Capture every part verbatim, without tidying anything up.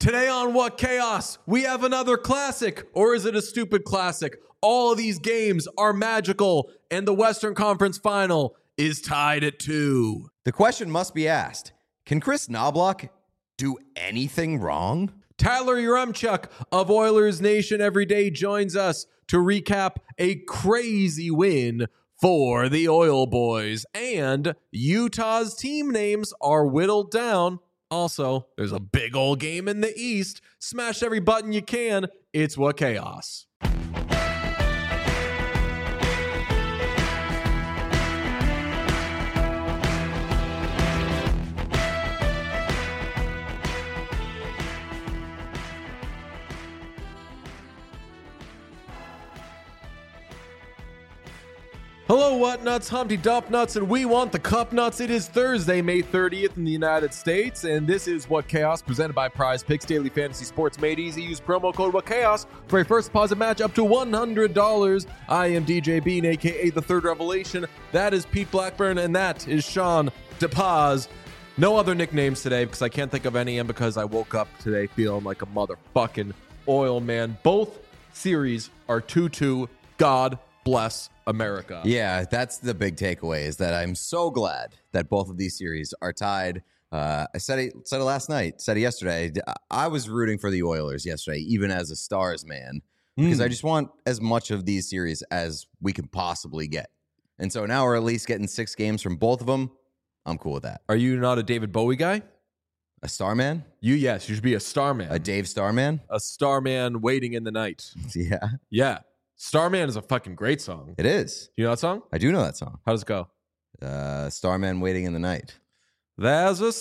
Today on What Chaos, we have another classic, or is it a stupid classic? All of these games are magical, and the Western Conference Final is tied at two. The question must be asked, can Chris Knobloch do anything wrong? Tyler Yaremchuk of Oilers Nation Everyday joins us to recap a crazy win for the Oil Boys, and Utah's team names are whittled down. Also, there's a big old game in the East. Smash every button you can. It's What Chaos. Hello, What Nuts, Humpty Dump Nuts, and we want the Cup Nuts. It is Thursday, May thirtieth in the United States, and this is What Chaos, presented by Prize Picks, daily fantasy sports made easy. Use promo code What Chaos for a first deposit match up to one hundred dollars. I am D J Bean, a k a. The Third Revelation. That is Pete Blackburn, and that is Sean DePaz. No other nicknames today because I can't think of any, and because I woke up today feeling like a motherfucking oil man. Both series are two two. God bless America. Yeah, that's the big takeaway, is that I'm so glad that both of these series are tied. Uh, I said it, said it last night, said it yesterday. I was rooting for the Oilers yesterday, even as a Stars man, because mm. I just want as much of these series as we can possibly get. And so now we're at least getting six games from both of them. I'm cool with that. Are you not a David Bowie guy? A Starman? You, yes, you should be a Starman. A Dave Starman? A Starman waiting in the night. Yeah. Yeah. Starman is a fucking great song. It is. Do you know that song? I do know that song. How does it go? Uh, Starman waiting in the night. There's a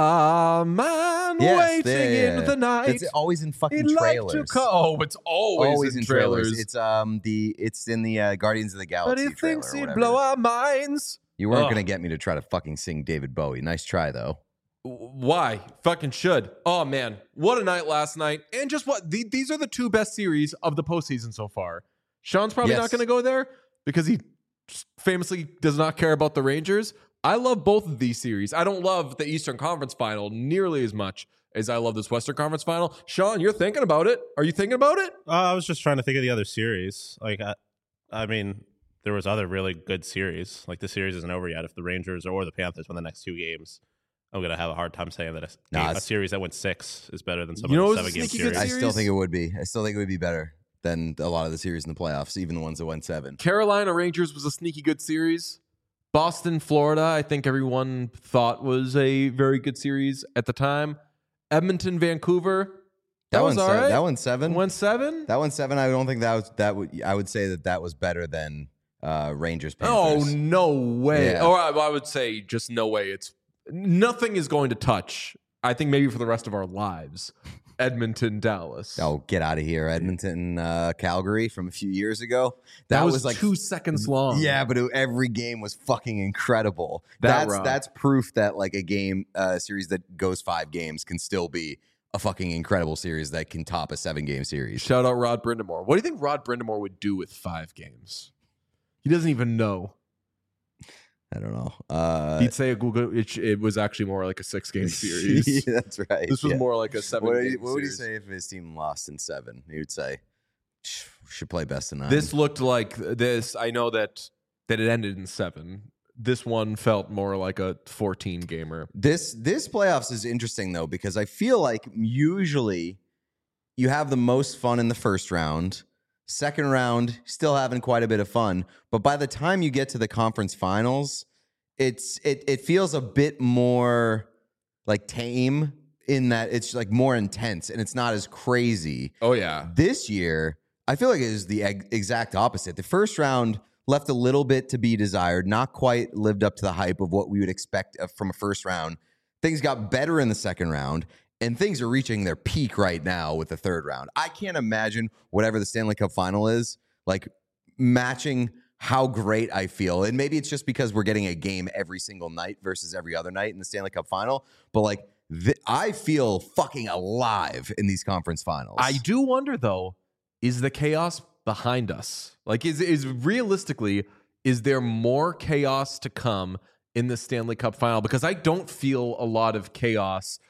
starman yes, waiting yeah, yeah. in the night. It's always in fucking He'd trailers. Like to co- oh, it's always, always in, in trailers. trailers. It's um the it's in the uh, Guardians of the Galaxy. But he trailer thinks or he'd whatever. blow our minds. You weren't Ugh. gonna get me to try to fucking sing David Bowie. Nice try though. Why? Fucking should. Oh man, what a night last night! And just what the, these are the two best series of the postseason so far. Sean's probably yes. not going to go there because he famously does not care about the Rangers. I love both of these series. I don't love the Eastern Conference Final nearly as much as I love this Western Conference Final. Sean, you're thinking about it. Are you thinking about it? Uh, I was just trying to think of the other series. Like, I, I mean, there was other really good series. Like, the series isn't over yet. If the Rangers or the Panthers win the next two games, I'm going to have a hard time saying that a, nah, game, a series that went six is better than some you of know the seven-game series? series. I still think it would be. I still think it would be better than a lot of the series in the playoffs, even the ones that went seven. Carolina Rangers was a sneaky good series. Boston, Florida, I think everyone thought was a very good series at the time. Edmonton, Vancouver, that, that was all right. That one seven. One seven. That one seven. I don't think that was that would. I would say that that was better than uh, Rangers. Panthers. Oh no way! Yeah. Or I, I would say just no way. It's nothing is going to touch. I think maybe for the rest of our lives. Edmonton, Dallas. Oh, get out of here. Edmonton, uh, Calgary from a few years ago. That, that was, was like two seconds long. Yeah, but it, every game was fucking incredible. That that's that's proof that like a game uh, series that goes five games can still be a fucking incredible series that can top a seven game series. Shout out Rod Brindamore. What do you think Rod Brindamore would do with five games? He doesn't even know. I don't know. Uh, He'd say a Google. It, it was actually more like a six-game series. Yeah, that's right. This was yeah. more like a seven. What, game what would he series. say if his team lost in seven? He would say, "Should play best of nine." This looked like this. I know that that it ended in seven. This one felt more like a fourteen gamer. This this playoffs is interesting though, because I feel like usually you have the most fun in the first round. Second round, still having quite a bit of fun. But by the time you get to the conference finals, it's it it feels a bit more like tame in that it's like more intense and it's not as crazy. Oh, yeah. This year, I feel like it is the ex- exact opposite. The first round left a little bit to be desired, not quite lived up to the hype of what we would expect from a first round. Things got better in the second round. And things are reaching their peak right now with the third round. I can't imagine whatever the Stanley Cup final is, like matching how great I feel. And maybe it's just because we're getting a game every single night versus every other night in the Stanley Cup final. But like, th- I feel fucking alive in these conference finals. I do wonder, though, is the chaos behind us? Like, is is realistically, is there more chaos to come in the Stanley Cup final? Because I don't feel a lot of chaos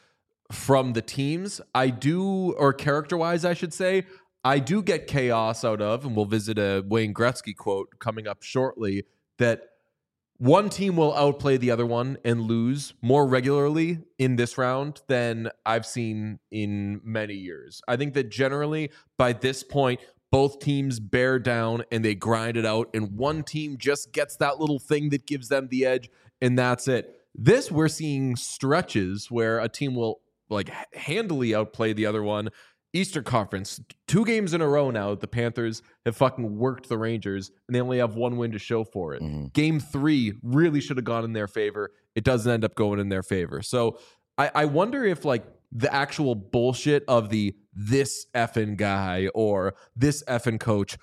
from the teams. I do, or character-wise, I should say, I do get chaos out of, and we'll visit a Wayne Gretzky quote coming up shortly, that one team will outplay the other one and lose more regularly in this round than I've seen in many years. I think that generally by this point, both teams bear down and they grind it out, and one team just gets that little thing that gives them the edge, and that's it. This, we're seeing stretches where a team will like handily outplay the other one. Eastern Conference, two games in a row now, the Panthers have fucking worked the Rangers, and they only have one win to show for it. Mm-hmm. Game three really should have gone in their favor. It doesn't end up going in their favor. So I, I wonder if like the actual bullshit of the this effing guy or this effing coach,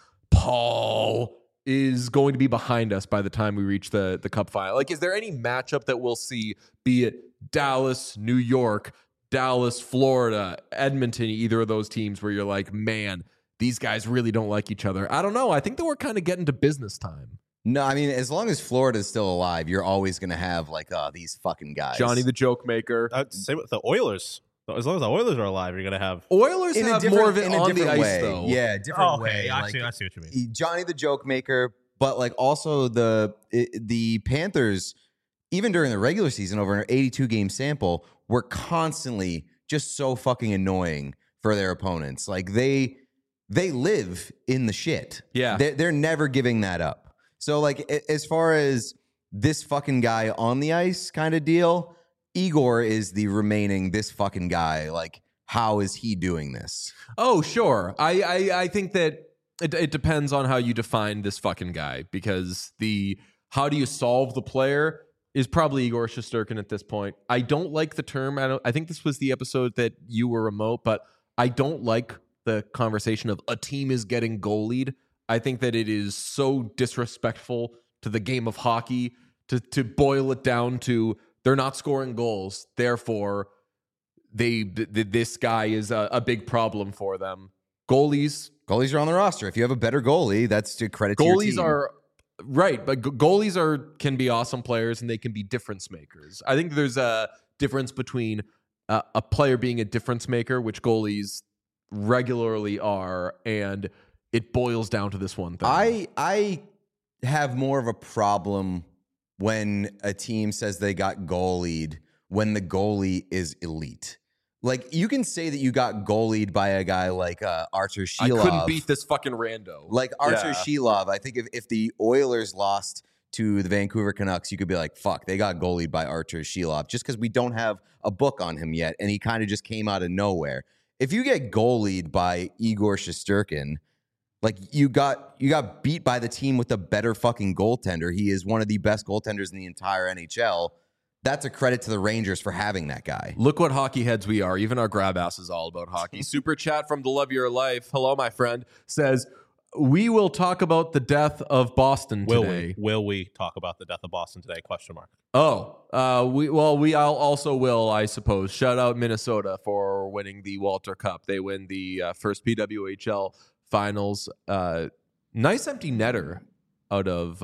Paul, is going to be behind us by the time we reach the, the Cup final. Like, is there any matchup that we'll see, be it Dallas, New York, Dallas, Florida, Edmonton, either of those teams where you're like, man, these guys really don't like each other? I don't know. I think that we're kind of getting to business time. No, I mean, as long as Florida's still alive, you're always going to have like, uh, these fucking guys. Johnny the joke maker. Uh, same with the Oilers. As long as the Oilers are alive, you're going to have... Oilers in have more of it on the ice, way. though. Yeah, different oh, okay. way. Actually, like, I see what you mean. Johnny the joke maker, but like also the the Panthers, even during the regular season, over an eighty-two game sample, were constantly just so fucking annoying for their opponents. Like they they live in the shit. Yeah. They're, they're never giving that up. So like as far as this fucking guy on the ice kind of deal, Igor is the remaining this fucking guy. Like, how is he doing this? Oh, sure. I, I, I think that it, it depends on how you define this fucking guy, because the how do you solve the player is probably Igor Shesterkin at this point. I don't like the term. I don't. I think this was the episode that you were remote, but I don't like the conversation of a team is getting goalied. I think that it is so disrespectful to the game of hockey to to boil it down to they're not scoring goals, therefore they th- th- this guy is a, a big problem for them. Goalies, goalies are on the roster. If you have a better goalie, that's to credit to goalies your team. are right, but g- goalies are can be awesome players and they can be difference makers. I think there's a difference between uh, a player being a difference maker, which goalies regularly are, and it boils down to this one thing. I I have more of a problem when a team says they got goalied when the goalie is elite. Like, you can say that you got goalied by a guy like uh, Artur Sheilov. I couldn't beat this fucking rando. Like Artur yeah. Sheilov. I think if, if the Oilers lost to the Vancouver Canucks, you could be like, fuck, they got goalied by Artur Sheilov, just because we don't have a book on him yet, and he kind of just came out of nowhere. If you get goalied by Igor Shesterkin, like you got you got beat by the team with a better fucking goaltender. He is one of the best goaltenders in the entire N H L. That's a credit to the Rangers for having that guy. Look what hockey heads we are. Even our grab ass is all about hockey. Super chat from the Love Your Life. Hello, my friend. Says, we will talk about the death of Boston will today. We? Will we talk about the death of Boston today? Question mark. Oh, uh, we well, we also will, I suppose. Shout out Minnesota for winning the Walter Cup. They win the uh, first P W H L finals. Uh, nice empty netter out of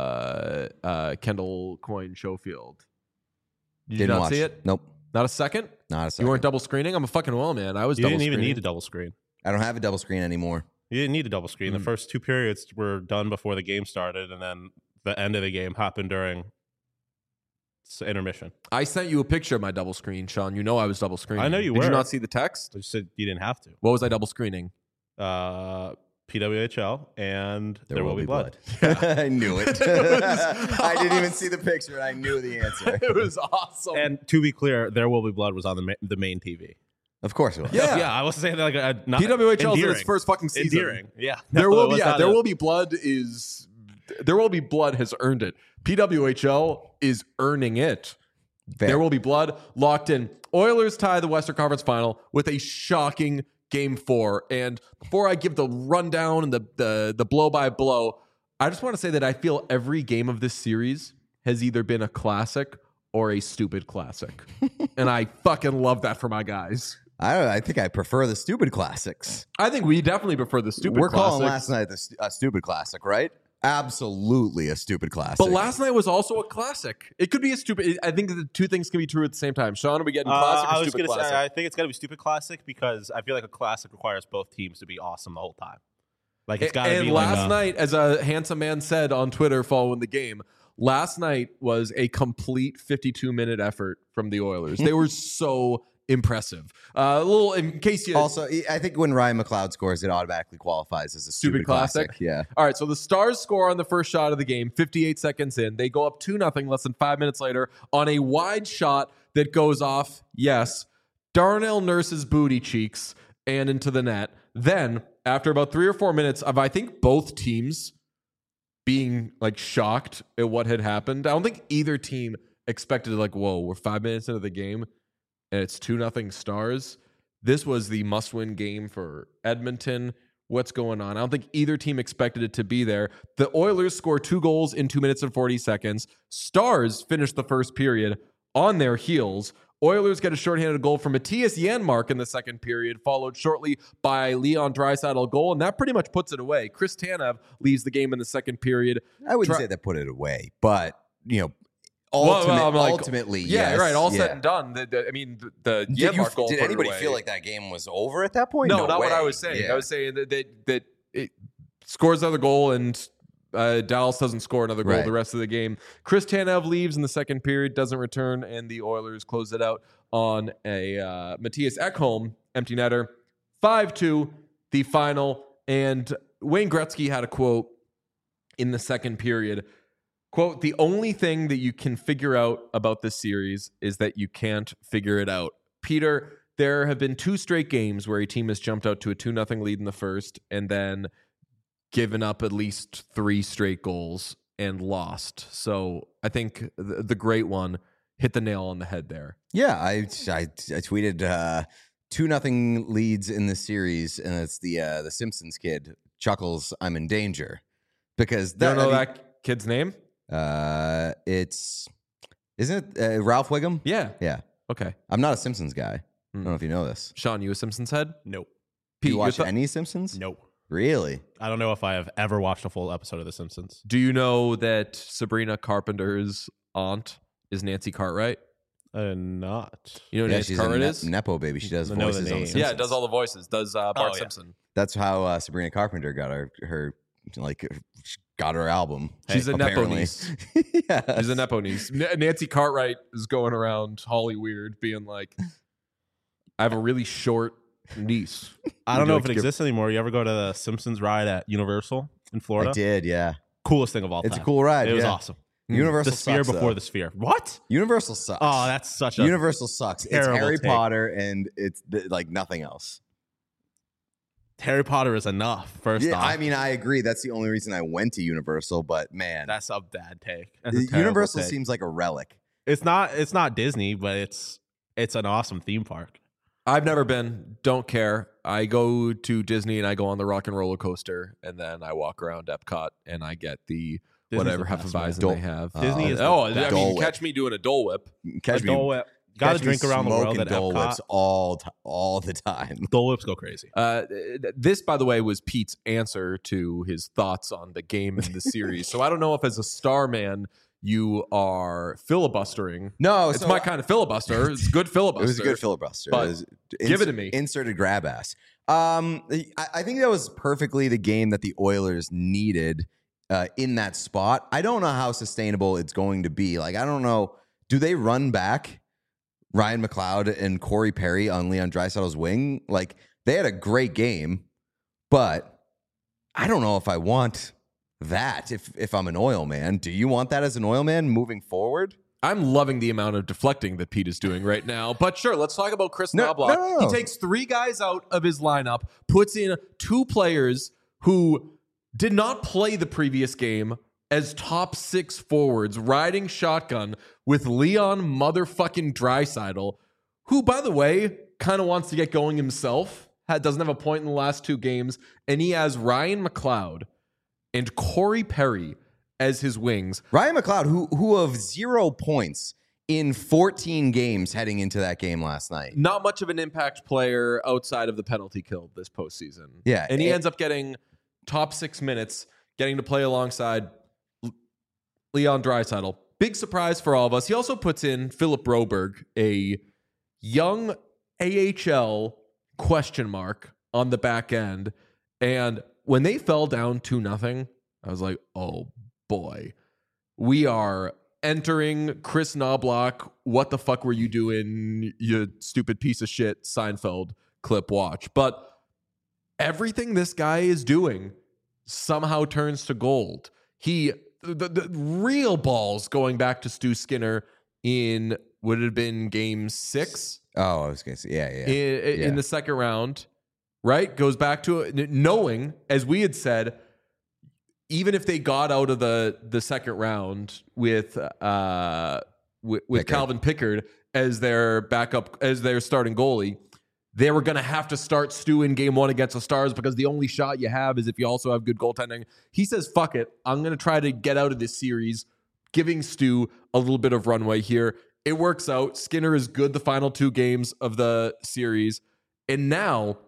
uh, uh, Kendall Coyne Schofield. Did Didn't you not watch. see it? Nope. Not a second? Not a second. You weren't double screening? I'm a fucking well, man. I was You double didn't screening. even need a double screen. I don't have a double screen anymore. You didn't need a double screen. Mm. The first two periods were done before the game started, and then the end of the game happened during intermission. I sent you a picture of my double screen, Sean. You know I was double screening. I know you Did were. you not see the text? I just said you didn't have to. What was I double screening? Uh, P W H L and There, Will Be Blood. I knew it. I didn't even see the picture, and I knew the answer. It was awesome. And to be clear, There Will Be Blood was on the ma- the main T V. Of course it was. Yeah. yeah. I was saying that like a, not P W H L is in its endearing. first fucking season. Endearing. Yeah. There No, will it be was yeah, not There a- Will Be Blood is There Will Be Blood has earned it. P W H L is earning it. Fair. There Will Be Blood locked in. Oilers tie the Western Conference Final with a shocking game four. And before I give the rundown and the the the blow by blow, I just want to say that I feel every game of this series has either been a classic or a stupid classic. And I fucking love that for my guys. I don't know. I think I prefer the stupid classics. I think we definitely prefer the stupid We're classics. calling last night the st- uh, stupid classic, right? Absolutely a stupid classic. But last night was also a classic. It could be a stupid. I think the two things can be true at the same time. Sean, are we getting classic uh, or I was stupid gonna classic? say, I think it's got to be stupid classic because I feel like a classic requires both teams to be awesome the whole time. Like it's got to and be last like a, night, as a handsome man said on Twitter following the game, last night was a complete fifty-two minute effort from the Oilers. They were so impressive. Uh, a little, in case you Also, I think when Ryan McLeod scores, it automatically qualifies as a stupid, Stupid classic? classic. Yeah. All right, so the Stars score on the first shot of the game, fifty-eight seconds in. They go up two nothing less than five minutes later on a wide shot that goes off, yes, Darnell Nurse's booty cheeks and into the net. Then, after about three or four minutes of, I think, both teams being like shocked at what had happened, I don't think either team expected like, whoa, we're five minutes into the game and it's two nothing Stars. This was the must-win game for Edmonton. What's going on? I don't think either team expected it to be there. The Oilers score two goals in two minutes and forty seconds. Stars finish the first period on their heels. Oilers get a shorthanded goal from Matthias Janmark in the second period, followed shortly by Leon Draisaitl goal, and that pretty much puts it away. Chris Tanev leaves the game in the second period. I wouldn't Dra- say that put it away, but, you know, Well, ultimate, well, I'm like- ultimately, Yeah, yes, right. All yeah. said and done. The, the, I mean, the, the Did, you, Janmark goal did put it anybody away. feel like that game was over at that point? No, No not what way. I was saying. Yeah. I was saying that that, that it scores another goal and uh, Dallas doesn't score another goal Right. the rest of the game. Chris Tanev leaves in the second period, doesn't return, and the Oilers close it out on a uh, Matthias Ekholm empty netter. five two, the final. And Wayne Gretzky had a quote in the second period. Quote, the only thing that you can figure out about this series is that you can't figure it out. Peter, there have been two straight games where a team has jumped out to a two nothing lead in the first and then given up at least three straight goals and lost. So I think the, the great one hit the nail on the head there. Yeah, I, I, I tweeted uh, two nothing leads in the series, and it's the uh, the Simpsons kid chuckles, I'm in danger. Because You that, don't know I mean, that kid's name? Uh, it's isn't it uh, Ralph Wiggum? Yeah. Yeah, Okay. I'm not a Simpsons guy. I Hmm. don't know if you know this. Sean, you a Simpsons head? nope, Do you Pete, watch th- any Simpsons? nope. Really? I don't know if I have ever watched a full episode of The Simpsons. do you know that Sabrina Carpenter's aunt is Nancy Cartwright? Uh, not. You know who Yeah, Nancy she's a Cartwright ne- is? nepo baby. She does I know the voices on the name. Simpsons. Yeah, does all the voices. Does uh, Bart Oh, yeah. Simpson. That's how uh, Sabrina Carpenter got her her like she got her album. She's a nepo apparently. niece. Yes. She's a nepo niece. N- Nancy Cartwright is going around Holly Weird being like, I have a really short niece. I Would don't you know like if to it give- exists anymore. You ever go to the Simpsons ride at Universal in Florida? I did. Yeah, Coolest thing of all it's time. a cool ride. It was yeah. awesome. Universal The sphere sucks, before though. the sphere. What? Universal sucks. Oh, that's such a Universal sucks. It's terrible Harry take. Potter and it's th- like nothing else. Harry Potter is enough. First Yeah, off, I mean, I agree. That's the only reason I went to Universal. But man, that's a bad take. That's a the- terrible Universal take. seems like a relic. It's not. It's not Disney, but it's it's an awesome theme park. I've never been. Don't care. I go to Disney and I go on the Rock and Roller Coaster, and then I walk around Epcot and I get the Disney's whatever the best, man. Hefeweizen Dole- they have. Disney Uh, is the oh, I best. mean, Dole Whip. catch me doing a Dole Whip. Catch A me, Dole Whip. Got to catch me drink around the world smoking at Dole Epcot. Whips all t- all the time. Dole Whips go crazy. Uh, th- this, by the way, was Pete's answer to his thoughts on the game and the series. So I don't know if, as a star man, you are filibustering. No, It's so my kind of filibuster. It's good It filibuster. was a good filibuster. But It was give it to me. Inserted grab ass. Um, I, I think that was perfectly the game that the Oilers needed uh, in that spot. I don't know how sustainable it's going to be. Like, I don't know. Do they run back Ryan McLeod and Corey Perry on Leon Draisaitl's wing? Like, they had a great game, but I don't know if I want that if if I'm an oil man. Do you want that as an oil man moving forward? I'm loving the amount of deflecting that Pete is doing right now. But sure, let's talk about Chris No, Knobloch. no, no, no. He takes three guys out of his lineup, puts in two players who did not play the previous game as top six forwards, riding shotgun with Leon motherfucking Draisaitl, who, by the way, kind of wants to get going himself, had, doesn't have a point in the last two games, and he has Ryan McLeod and Corey Perry as his wings. Ryan McLeod, who who of zero points in fourteen games heading into that game last night. Not much of an impact player outside of the penalty kill this postseason. Yeah, And he it- ends up getting top six minutes, getting to play alongside Leon Draisaitl. Big surprise for all of us. He also puts in Philip Broberg, a young A H L question mark on the back end. And when they fell down two nothing, I was like, oh boy, we are entering Chris Knobloch. What the fuck were you doing, you stupid piece of shit Seinfeld clip watch? But everything this guy is doing somehow turns to gold. He, the, the real balls going back to Stu Skinner in, would it have been game six? Oh, I was going to say, yeah, yeah. In, yeah. in the second round, right? Goes back to it, knowing, as we had said, even if they got out of the, the second round with, uh, with, with Pickard. Calvin Pickard as their backup, as their starting goalie, they were going to have to start Stu in game one against the Stars because the only shot you have is if you also have good goaltending. He says, fuck it. I'm going to try to get out of this series, giving Stu a little bit of runway here. It works out. Skinner is good the final two games of the series. And now,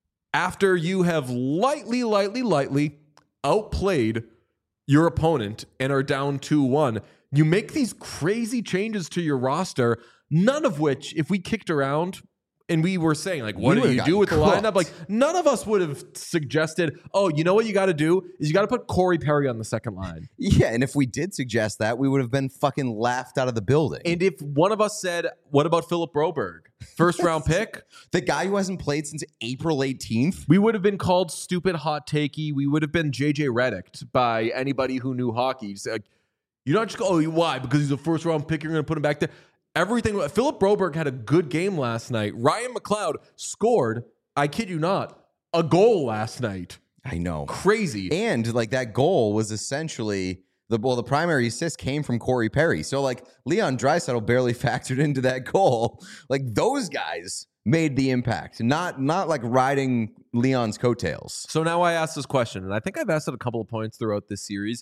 after you have lightly, lightly, lightly outplayed your opponent and are down two one, you make these crazy changes to your roster, none of which, if we kicked around and we were saying, like, what You do you would've do with the gotten lineup? cooked. Like, none of us would have suggested, oh, you know what you got to do is you got to put Corey Perry on the second line. Yeah, and if we did suggest that, we would have been fucking laughed out of the building. And if one of us said, what about Philip Broberg? First round pick? The guy who hasn't played since April eighteenth? We would have been called stupid, hot takey. We would have been J J Redick by anybody who knew hockey. Just like, you don't just go, oh, why? Because he's a first round pick, you're going to put him back there. Everything. Philip Broberg had a good game last night. Ryan McLeod scored, I kid you not, a goal last night. I know. Crazy. And like that goal was essentially the well, the primary assist came from Corey Perry. So like Leon Draisaitl barely factored into that goal. Like those guys made the impact, not not like riding Leon's coattails. So now I ask this question, and I think I've asked it a couple of points throughout this series.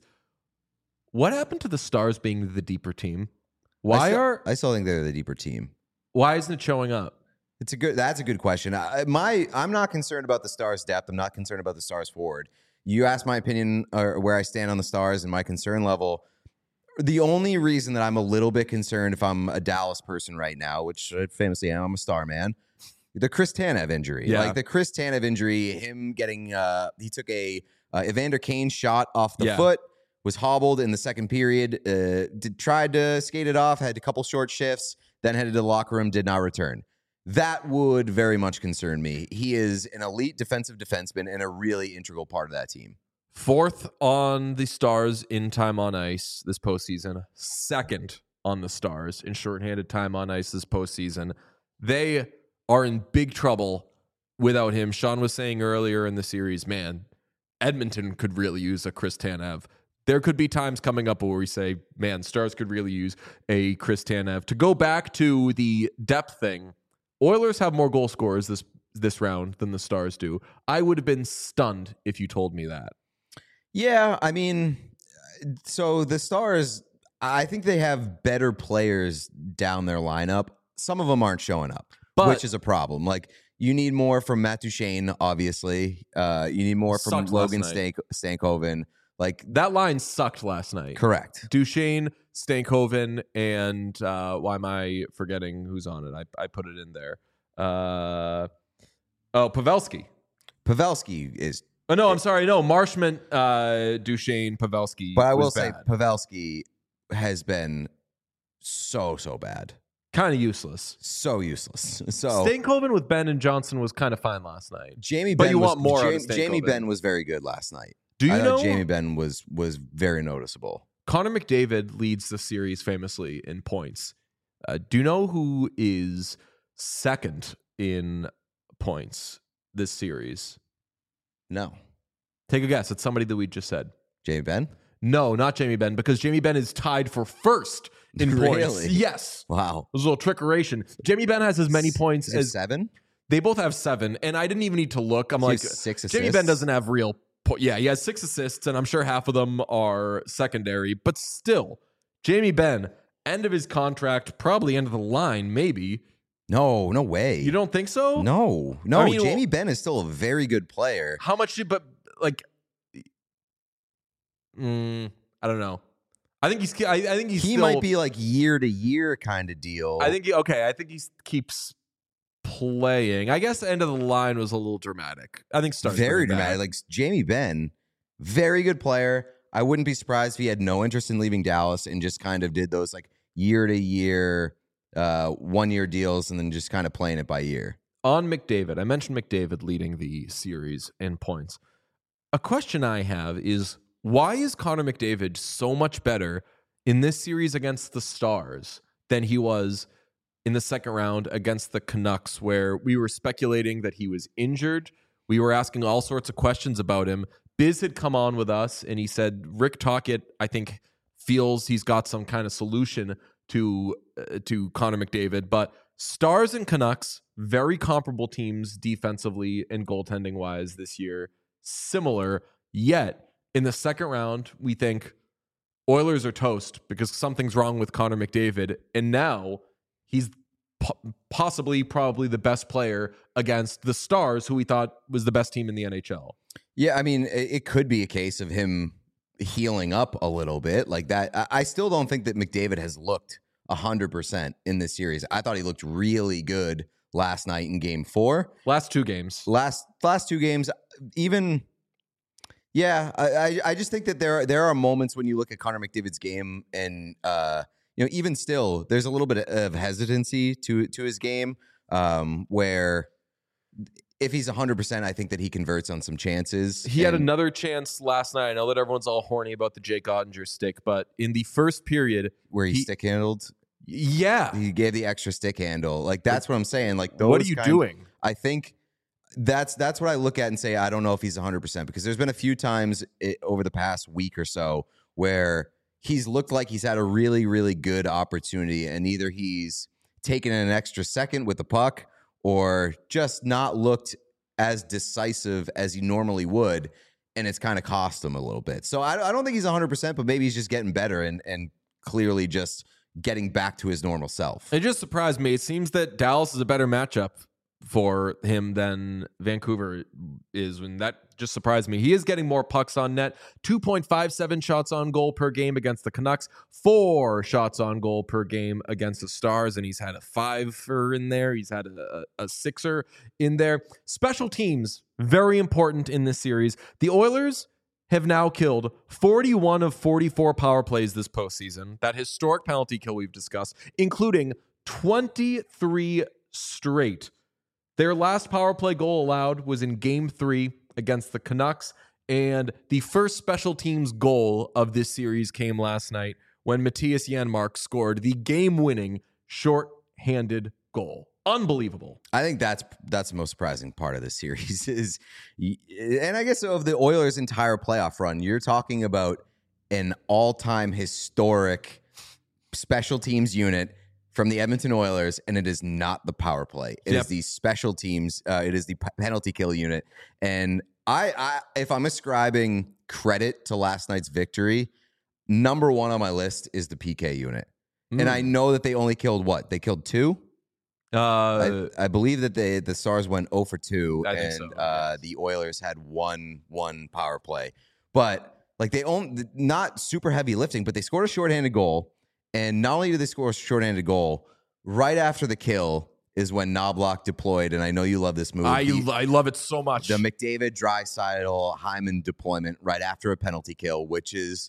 What happened to the Stars being the deeper team? Why I still, are I still think they're the deeper team. why isn't it showing up? It's a good. That's a good question. I, my I'm not concerned about the Stars' depth. I'm not concerned about the Stars' forward. You asked my opinion or where I stand on the Stars and my concern level. The only reason that I'm a little bit concerned, if I'm a Dallas person right now, which I famously am, I'm a Star man. The Chris Tanev injury, Yeah. like the Chris Tanev injury, him getting uh, he took a uh, Evander Kane shot off the Yeah. foot. Was hobbled in the second period, uh, did, tried to skate it off, had a couple short shifts, then headed to the locker room, did not return. That would very much concern me. He is an elite defensive defenseman and a really integral part of that team. Fourth on the Stars in time on ice this postseason. Second on the Stars in shorthanded time on ice this postseason. They are in big trouble without him. Sean was saying earlier in the series, man, Edmonton could really use a Chris Tanev. There could be times coming up where we say, man, Stars could really use a Chris Tanev. To go back to the depth thing, Oilers have more goal scorers this this round than the Stars do. I would have been stunned if you told me that. Yeah, I mean, so the Stars, I think they have better players down their lineup. Some of them aren't showing up, But- which is a problem. Like, you need more from Matt Duchene, obviously. Uh, you need more from Sucked last Logan night. Stank- Stankoven. Like, That line sucked last night. correct. Duchesne, Stankoven, and uh, why am I forgetting who's on it? I, I put it in there. Uh, oh, Pavelski. Pavelski is, Oh, no, I'm sorry. No, Marshman, uh, Duchesne, Pavelski. but I will was say bad. Pavelski has been so, so bad. Kind of useless. So useless. So Stankoven with Ben and Johnson was kind of fine last night. Jamie But Ben you was, want more out of Jamie, Jamie Stankoven. Ben was very good last night. Do you I know thought Jamie Ben was was very noticeable. Connor McDavid leads the series famously in points. Uh, do you know who is second in points this series? No. Take a guess. It's somebody that we just said. Jamie Ben? No, not Jamie Ben, because Jamie Ben is tied for first in points. Really? Yes. Wow. It was a little trickeration. Jamie Ben has as many points Is it as seven? they both have seven, and I didn't even need to look. I'm He like, has six Jamie assists? Ben doesn't have real. Po- yeah, he has six assists, and I'm sure half of them are secondary. But still, Jamie Ben, end of his contract, probably end of the line, maybe. No, no way. You don't think so? No, no. I mean, Jamie Ben is still a very good player. How much did? But like, Mm, I don't know. I think he's. I, I think he's. He still, might be like year to year kind of deal. I think. He, okay. I think he keeps playing. I guess end of the line was a little dramatic. I think starts very dramatic. Like Jamie Benn, very good player. I wouldn't be surprised if he had no interest in leaving Dallas and just kind of did those like year to year, uh, one year deals and then just kind of playing it by year. On McDavid, I mentioned McDavid leading the series in points. A question I have is, why is Connor McDavid so much better in this series against the Stars than he was in the second round against the Canucks, where we were speculating that he was injured? We were asking all sorts of questions about him. Biz had come on with us, and he said Rick Tocchet, I think, feels he's got some kind of solution to uh, to Connor McDavid. But Stars and Canucks, very comparable teams defensively and goaltending-wise this year, similar, yet in the second round, we think Oilers are toast because something's wrong with Connor McDavid, and now he's po- possibly, probably the best player against the Stars, who we thought was the best team in the N H L. Yeah, I mean, it, it could be a case of him healing up a little bit like that. I, I still don't think that McDavid has looked one hundred percent in this series. I thought he looked really good last night in game four. Last two games. Last last two games, even... Yeah, I, I I just think that there are, there are moments when you look at Connor McDavid's game, and uh, you know, even still, there's a little bit of hesitancy to to his game, um, where if he's one hundred percent, I think that he converts on some chances. He had another chance last night. I know that everyone's all horny about the Jake Ottinger stick, but in the first period, where he, he stick handled, yeah, he gave the extra stick handle. Like that's what I'm saying. Like, those what are you kind, doing? I think. That's that's what I look at and say, I don't know if he's one hundred percent, because there's been a few times it, over the past week or so where he's looked like he's had a really, really good opportunity, and either he's taken an extra second with the puck or just not looked as decisive as he normally would, and it's kind of cost him a little bit. So I, I don't think he's one hundred percent, but maybe he's just getting better and, and clearly just getting back to his normal self. It just surprised me. It seems that Dallas is a better matchup for him than Vancouver is, and that just surprised me. He is getting more pucks on net, two point five seven shots on goal per game against the Canucks, four shots on goal per game against the Stars, and he's had a fiver in there. He's had a, a sixer in there. Special teams, very important in this series. The Oilers have now killed forty-one of forty-four power plays this postseason, that historic penalty kill we've discussed, including twenty-three straight. Their last power play goal allowed was in game three against the Canucks, and the first special teams goal of this series came last night when Matthias Janmark scored the game-winning short-handed goal. Unbelievable. I think that's that's the most surprising part of this series is, and I guess of the Oilers' entire playoff run, you're talking about an all-time historic special teams unit from the Edmonton Oilers, and it is not the power play. It yep. is the special teams. Uh, it is the p- penalty kill unit. And I, I, if I'm ascribing credit to last night's victory, number one on my list is the P K unit. Mm. And I know that they only killed what? They killed two? Uh, I, I believe that they the Stars went zero for two, I and think so, uh, yes. the Oilers had one one power play. But like they own not super heavy lifting, but they scored a shorthanded goal. And not only did they score a shorthanded goal, right after the kill is when Knoblauch deployed, and I know you love this move. I, the, I love it so much. The McDavid, Draisaitl, Hyman deployment right after a penalty kill, which is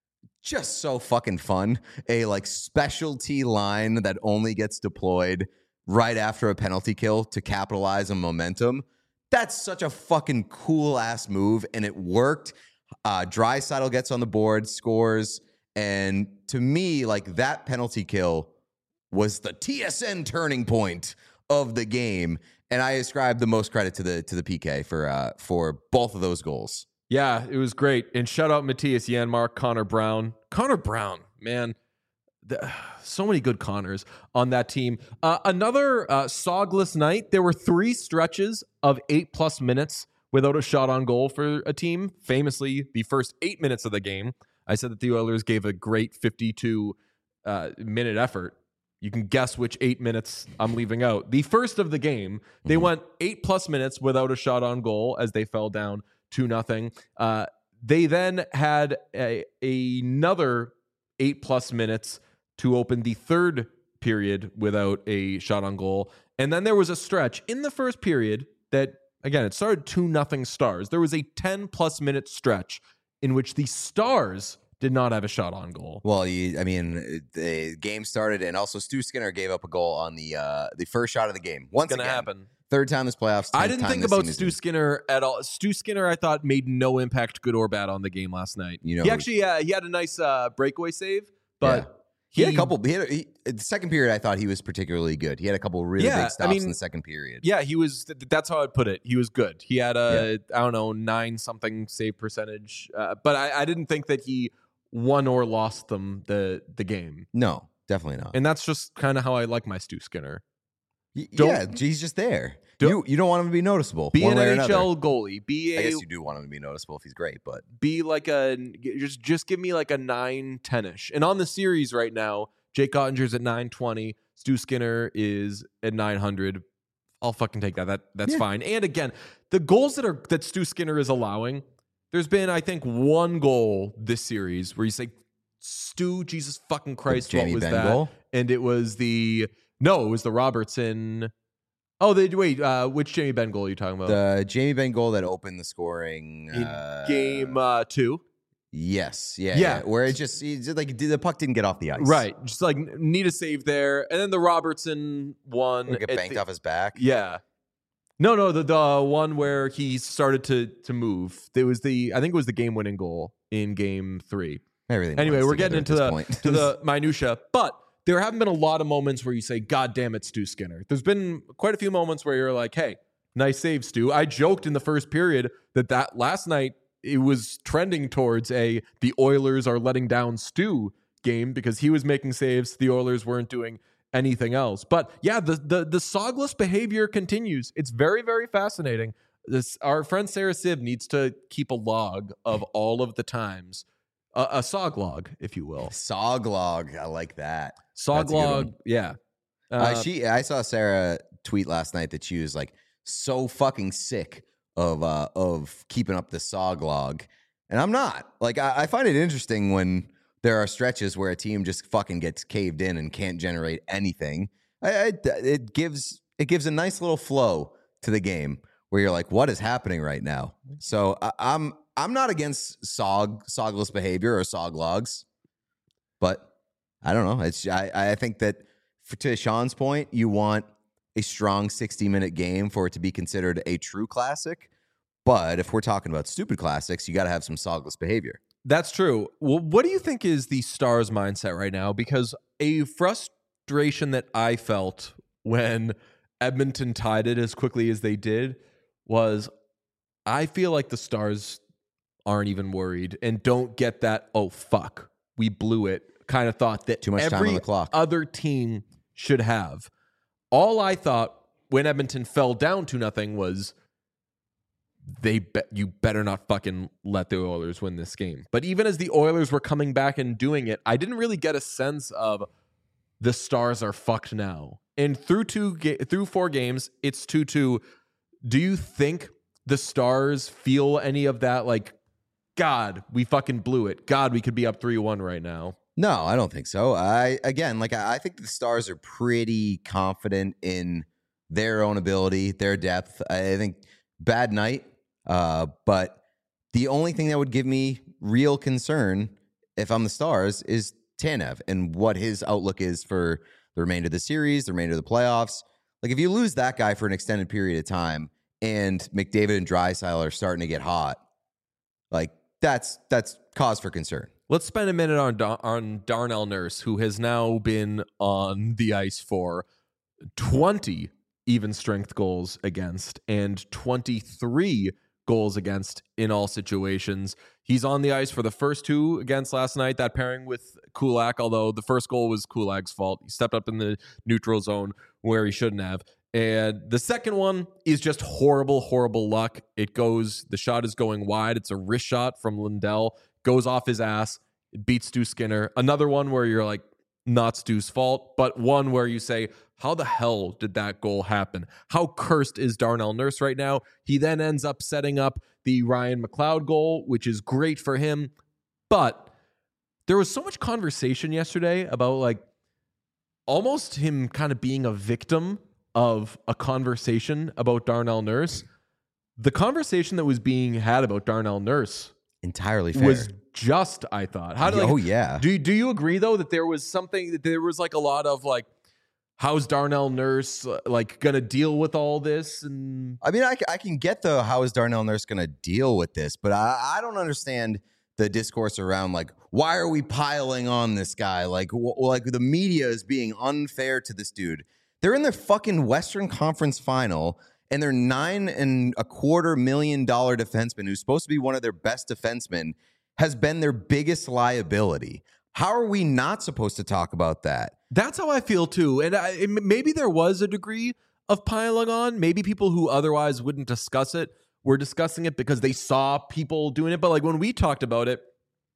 just so fucking fun. A like specialty line that only gets deployed right after a penalty kill to capitalize on momentum. That's such a fucking cool ass move, and it worked. Uh, Draisaitl gets on the board, scores. And to me, like that penalty kill was the T S N turning point of the game, and I ascribe the most credit to the to the P K for uh, for both of those goals. Yeah, it was great. And shout out Matthias Janmark, Connor Brown, Connor Brown, man, the, so many good Connors on that team. Uh, another uh, sogless night. There were three stretches of eight plus minutes without a shot on goal for a team. Famously, the first eight minutes of the game. I said that the Oilers gave a great fifty-two uh, minute effort. You can guess which eight minutes I'm leaving out. The first of the game, they went eight plus minutes without a shot on goal as they fell down two nothing. Uh, They then had a, another eight plus minutes to open the third period without a shot on goal. And then there was a stretch in the first period that, again, it started two nothing Stars. There was a ten plus minute stretch in which the Stars did not have a shot on goal. Well, you, I mean, the game started, and also Stu Skinner gave up a goal on the uh, the first shot of the game. Once It's gonna again, happen. Third time this playoffs. I didn't time think this about team Stu is- Skinner at all. Stu Skinner, I thought, made no impact, good or bad, on the game last night. You know he who- actually uh, he had a nice uh, breakaway save, but Yeah. He had a couple. He had a, he, the second period. I thought he was particularly good. He had a couple really Yeah, big I stops mean, in the second period. Yeah, he was. th- That's how I'd put it. He was good. He had a I don't know nine something save percentage, uh, but I, I didn't think that he won or lost them the the game. No, definitely not. And that's just kind of how I like my Stu Skinner. Y- don't- yeah, he's just there. Don't- you you don't want him to be noticeable. Be one an way or N H another. L goalie. Be I a guess you do want him to be noticeable if he's great, but be like a just just give me like a nine ten ish. And on the series right now, Jake Ottinger's at nine twenty. Stu Skinner is at nine hundred. I'll fucking take that. That that's Yeah. fine. And again, the goals that are that Stu Skinner is allowing, there's been I think one goal this series where you say, Stu, Jesus fucking Christ, The what Jamie was Benn that? goal? And it was the no, it was the Robertson. Oh, they wait. Uh, which Jamie Benn goal are you talking about? the Jamie Benn goal that opened the scoring In uh, game uh, two. Yes, yeah, Yeah. yeah. Where it just, he just like the puck didn't get off the ice, Right. Just like need a save there. And then the Robertson one. Or get at banked the- off his back. Yeah. No, no, the the one where he started to to move. It was the I think it was the game winning goal in game three. Everything. Anyway, blends we're getting together into at the this to point. the minutia, but there haven't been a lot of moments where you say, God damn it, Stu Skinner. There's been quite a few moments where you're like, hey, nice save, Stu. I joked in the first period that that last night it was trending towards a the Oilers are letting down Stu game because he was making saves. The Oilers weren't doing anything else. But yeah, the the the Saugless behavior continues. It's very, very fascinating. This our friend Sarah Siv needs to keep a log of all of the times. Uh, a sog log, if you will. Soglog. I like that. Sog That's a good log, one. yeah. Uh, Uh, she, I saw Sarah tweet last night that she was like so fucking sick of uh of keeping up the Soglog, and I'm not. Like, I, I find it interesting when there are stretches where a team just fucking gets caved in and can't generate anything. I, I, it gives it gives a nice little flow to the game where you're like, what is happening right now? So I, I'm I'm not against sog sogless behavior or soglogs, but I don't know. It's I, I think that for, to Sean's point, you want a strong sixty minute game for it to be considered a true classic. But if we're talking about stupid classics, you got to have some sogless behavior. That's true. Well, what do you think is the Stars' mindset right now? Because a frustration that I felt when Edmonton tied it as quickly as they did was I feel like the Stars aren't even worried and don't get that, oh, fuck, we blew it kind of thought that Too much time every on the clock. other team should have. All I thought when Edmonton fell down to nothing was they bet you better not fucking let the Oilers win this game. But even as the Oilers were coming back and doing it, I didn't really get a sense of the Stars are fucked now. And through two ga- through four games, it's two two. Do you think the Stars feel any of that? Like, God, we fucking blew it. God, we could be up three one right now. No, I don't think so. I again, like I, I think the Stars are pretty confident in their own ability, their depth. I think bad night, uh, but the only thing that would give me real concern if I'm the Stars is Tanev and what his outlook is for the remainder of the series, the remainder of the playoffs. Like if you lose that guy for an extended period of time, and McDavid and Draisaitl are starting to get hot, like that's that's cause for concern. Let's spend a minute on Dar- on Darnell Nurse, who has now been on the ice for twenty even strength goals against and twenty-three goals against in all situations. He's on the ice for the first two against last night, that pairing with Kulak, although the first goal was Kulak's fault. He stepped up in the neutral zone where he shouldn't have. And the second one is just horrible, horrible luck. It goes, the shot is going wide. It's a wrist shot from Lindell, goes off his ass, it beats Stu Skinner. Another one where you're like, not Stu's fault, but one where you say, how the hell did that goal happen? How cursed is Darnell Nurse right now? He then ends up setting up the Ryan McLeod goal, which is great for him. But there was so much conversation yesterday about like almost him kind of being a victim of a conversation about Darnell Nurse. The conversation that was being had about Darnell Nurse entirely fair. was just, I thought. How do like, oh yeah. Do do you agree though that there was something that there was like a lot of like, how's Darnell Nurse like gonna deal with all this? And I mean, I, I can get the how is Darnell Nurse gonna deal with this, but I, I don't understand the discourse around like, why are we piling on this guy? Like, w- like the media is being unfair to this dude. They're in their fucking Western Conference final, and their nine and a quarter million dollar defenseman, who's supposed to be one of their best defensemen, has been their biggest liability. How are we not supposed to talk about that? That's how I feel too. And I, it, maybe there was a degree of piling on. Maybe people who otherwise wouldn't discuss it were discussing it because they saw people doing it. But like when we talked about it,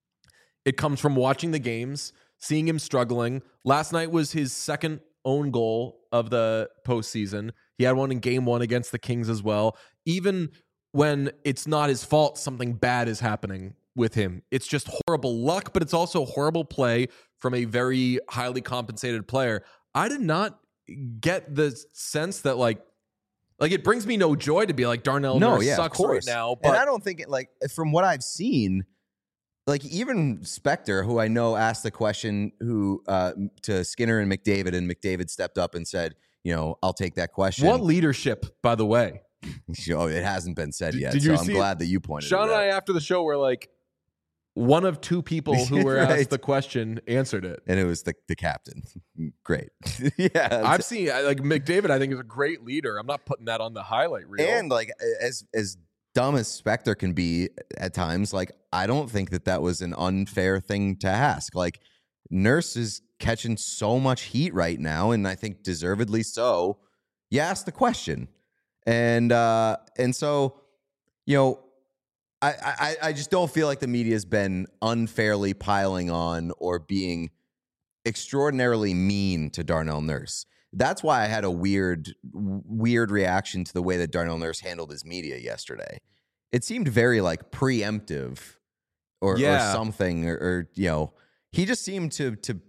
it comes from watching the games, seeing him struggling. Last night was his second own goal of the postseason. He had one in game one against the Kings as well. Even when it's not his fault, something bad is happening with him. It's just horrible luck, but it's also horrible play from a very highly compensated player. I did not get the sense that like, like it brings me no joy to be like Darnell no, Nurse yeah, sucks of course. right now. But and I don't think it like from what I've seen, like even Spector, who I know asked the question who uh, to Skinner and McDavid, and McDavid stepped up and said, you know, I'll take that question. What leadership, by the way? Oh, it hasn't been said Did, yet, did so you I'm see glad that you pointed Sean it out. and I, after the show, were like, one of two people who were Right. asked the question answered it. And it was the, the captain. Great. yeah. I've seen, like, McDavid, I think, is a great leader. I'm not putting that on the highlight reel. And, like, as as dumb as Spector can be at times, like, I don't think that that was an unfair thing to ask. Like, Nurse is catching so much heat right now, and I think deservedly so. You ask the question. And, uh, and so, you know, I, I, I just don't feel like the media has been unfairly piling on or being extraordinarily mean to Darnell Nurse. That's why I had a weird, weird reaction to the way that Darnell Nurse handled his media yesterday. It seemed very like preemptive or, Yeah. or something, or, or, you know, he just seemed to, to,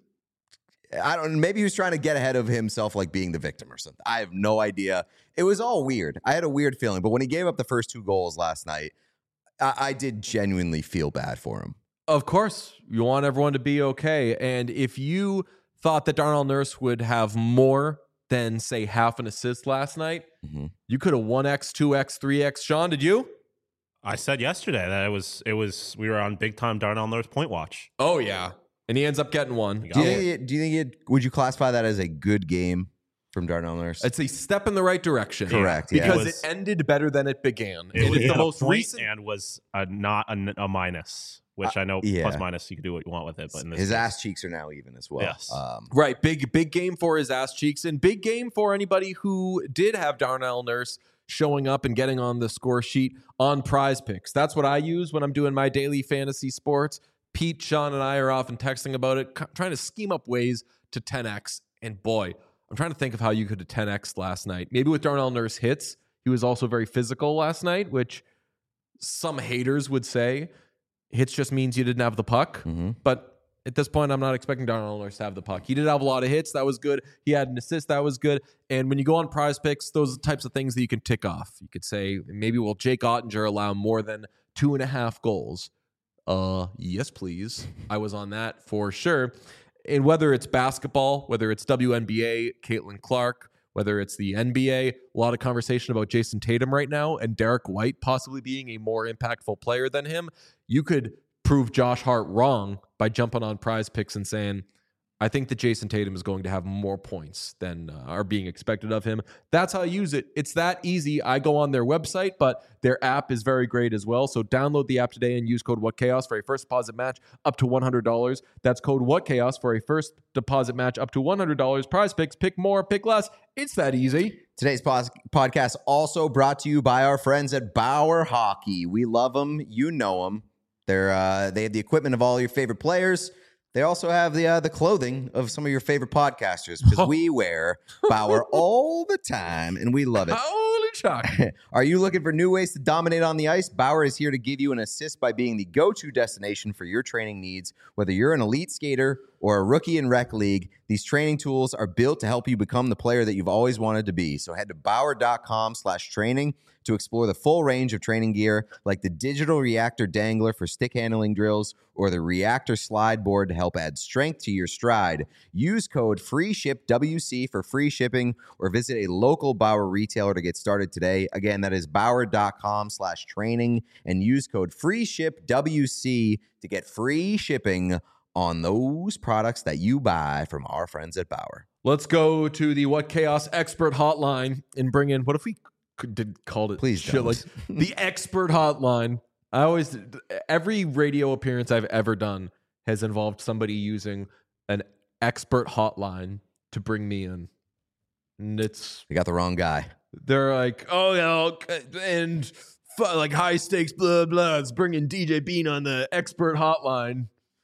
I don't, maybe he was trying to get ahead of himself, like being the victim or something. I have no idea. It was all weird. I had a weird feeling, but when he gave up the first two goals last night, I, I did genuinely feel bad for him. Of course, you want everyone to be okay. And if you thought that Darnell Nurse would have more than, say, half an assist last night, Mm-hmm. you could have one X, two X, three X. Sean, did you? I said yesterday that it was it was we were on big time Darnell Nurse point watch. Oh, yeah. And he ends up getting one. You Do you got think? It, do you think? It, would you classify that as a good game from Darnell Nurse? It's a step in the right direction. Correct, yeah. Because It it, was- ended better than it began. It It was is the a most point recent. and was a, not a, a minus, which I know yeah. plus minus you can do what you want with it. But in this His case, ass cheeks are now even as well. Yes. Um, Right, big big game for his ass cheeks, and big game for anybody who did have Darnell Nurse showing up and getting on the score sheet on Prize Picks. That's what I use when I'm doing my daily fantasy sports. Pete, Sean, and I are often texting about it, trying to scheme up ways to ten X. And boy, I'm trying to think of how you could have ten X last night. Maybe with Darnell Nurse hits. He was also very physical last night, which some haters would say hits just means you didn't have the puck. mhm. But at this point, I'm not expecting Darnell Nurse to have the puck. He did have a lot of hits. That was good. He had an assist. That was good. And when you go on Prize Picks, those are the types of things that you can tick off. You could say, maybe will Jake Ottinger allow more than two and a half goals? Uh, yes, please. I was on that for sure. And whether it's basketball, whether it's W N B A, Caitlin Clark, whether it's the N B A, a lot of conversation about Jason Tatum right now and Derek White possibly being a more impactful player than him. You could prove Josh Hart wrong by jumping on Prize Picks and saying, I think that Jason Tatum is going to have more points than uh, are being expected of him. That's how I use it. It's that easy. I go on their website, but their app is very great as well. So download the app today and use code WhatChaos for a first deposit match up to one hundred dollars. That's code WhatChaos for a first deposit match up to one hundred dollars. Prize Picks, pick more, pick less. It's that easy. Today's pos- podcast also brought to you by our friends at Bauer Hockey. We love them. You know them. They're uh, they have the equipment of all your favorite players. They also have the uh, the clothing of some of your favorite podcasters because we wear Bauer all the time and we love it. Holy chocolate. Are you looking for new ways to dominate on the ice? Bauer is here to give you an assist by being the go-to destination for your training needs. Whether you're an elite skater or a rookie in rec league, these training tools are built to help you become the player that you've always wanted to be. So head to bauer.com slash training to explore the full range of training gear like the digital reactor dangler for stick handling drills or the reactor slide board to help add strength to your stride. Use code FREESHIPWC for free shipping or visit a local Bauer retailer to get started today. Again, that is bauer.com slash training and use code FREESHIPWC to get free shipping on those products that you buy from our friends at Bauer. Let's go to the What Chaos Expert Hotline and bring in, what if we could did called it Please shit don't. like the Expert Hotline. I always, every radio appearance I've ever done has involved somebody using an expert hotline to bring me in. And it's, You got the wrong guy. they're like, oh, yeah, okay, and f- like high stakes, blah, blah. It's bringing D J Bean on the Expert Hotline.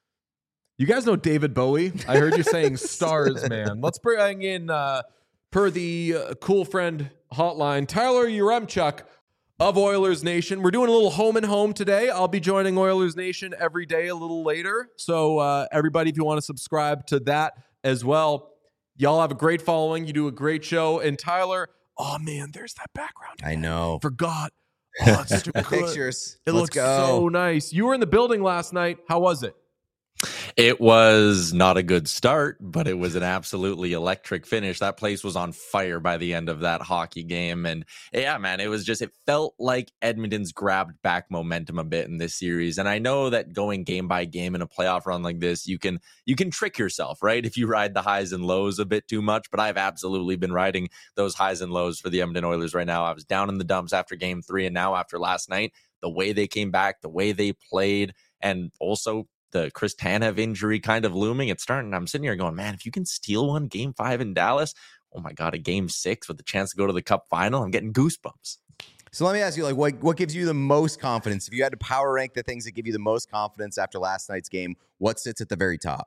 You guys know David Bowie? I heard you saying stars, man. Let's bring in, uh, per the uh, cool friend hotline, Tyler Yaremchuk of Oilers Nation. We're doing a little home and home today. I'll be joining Oilers Nation every day a little later. So uh, everybody, if you want to subscribe to that as well, y'all have a great following. You do a great show. And Tyler, oh man, there's that background. I know. Forgot. Oh, it's such a good. Pictures. It Let's looks go. so nice. You were in the building last night. How was it? It was not a good start, but it was an absolutely electric finish. That place was on fire by the end of that hockey game. And yeah, man, it was just, it felt like Edmonton's grabbed back momentum a bit in this series. And I know that going game by game in a playoff run like this, you can, you can trick yourself, right? If you ride the highs and lows a bit too much, but I've absolutely been riding those highs and lows for the Edmonton Oilers right now. I was down in the dumps after game three. And now after last night, the way they came back, the way they played, and also the Chris Tanev injury kind of looming, it's starting. I'm sitting here going, man, if you can steal one game five in Dallas, oh my God, a game six with the chance to go to the Cup final, I'm getting goosebumps. So let me ask you, like, what, what gives you the most confidence? If you had to power rank the things that give you the most confidence after last night's game, what sits at the very top?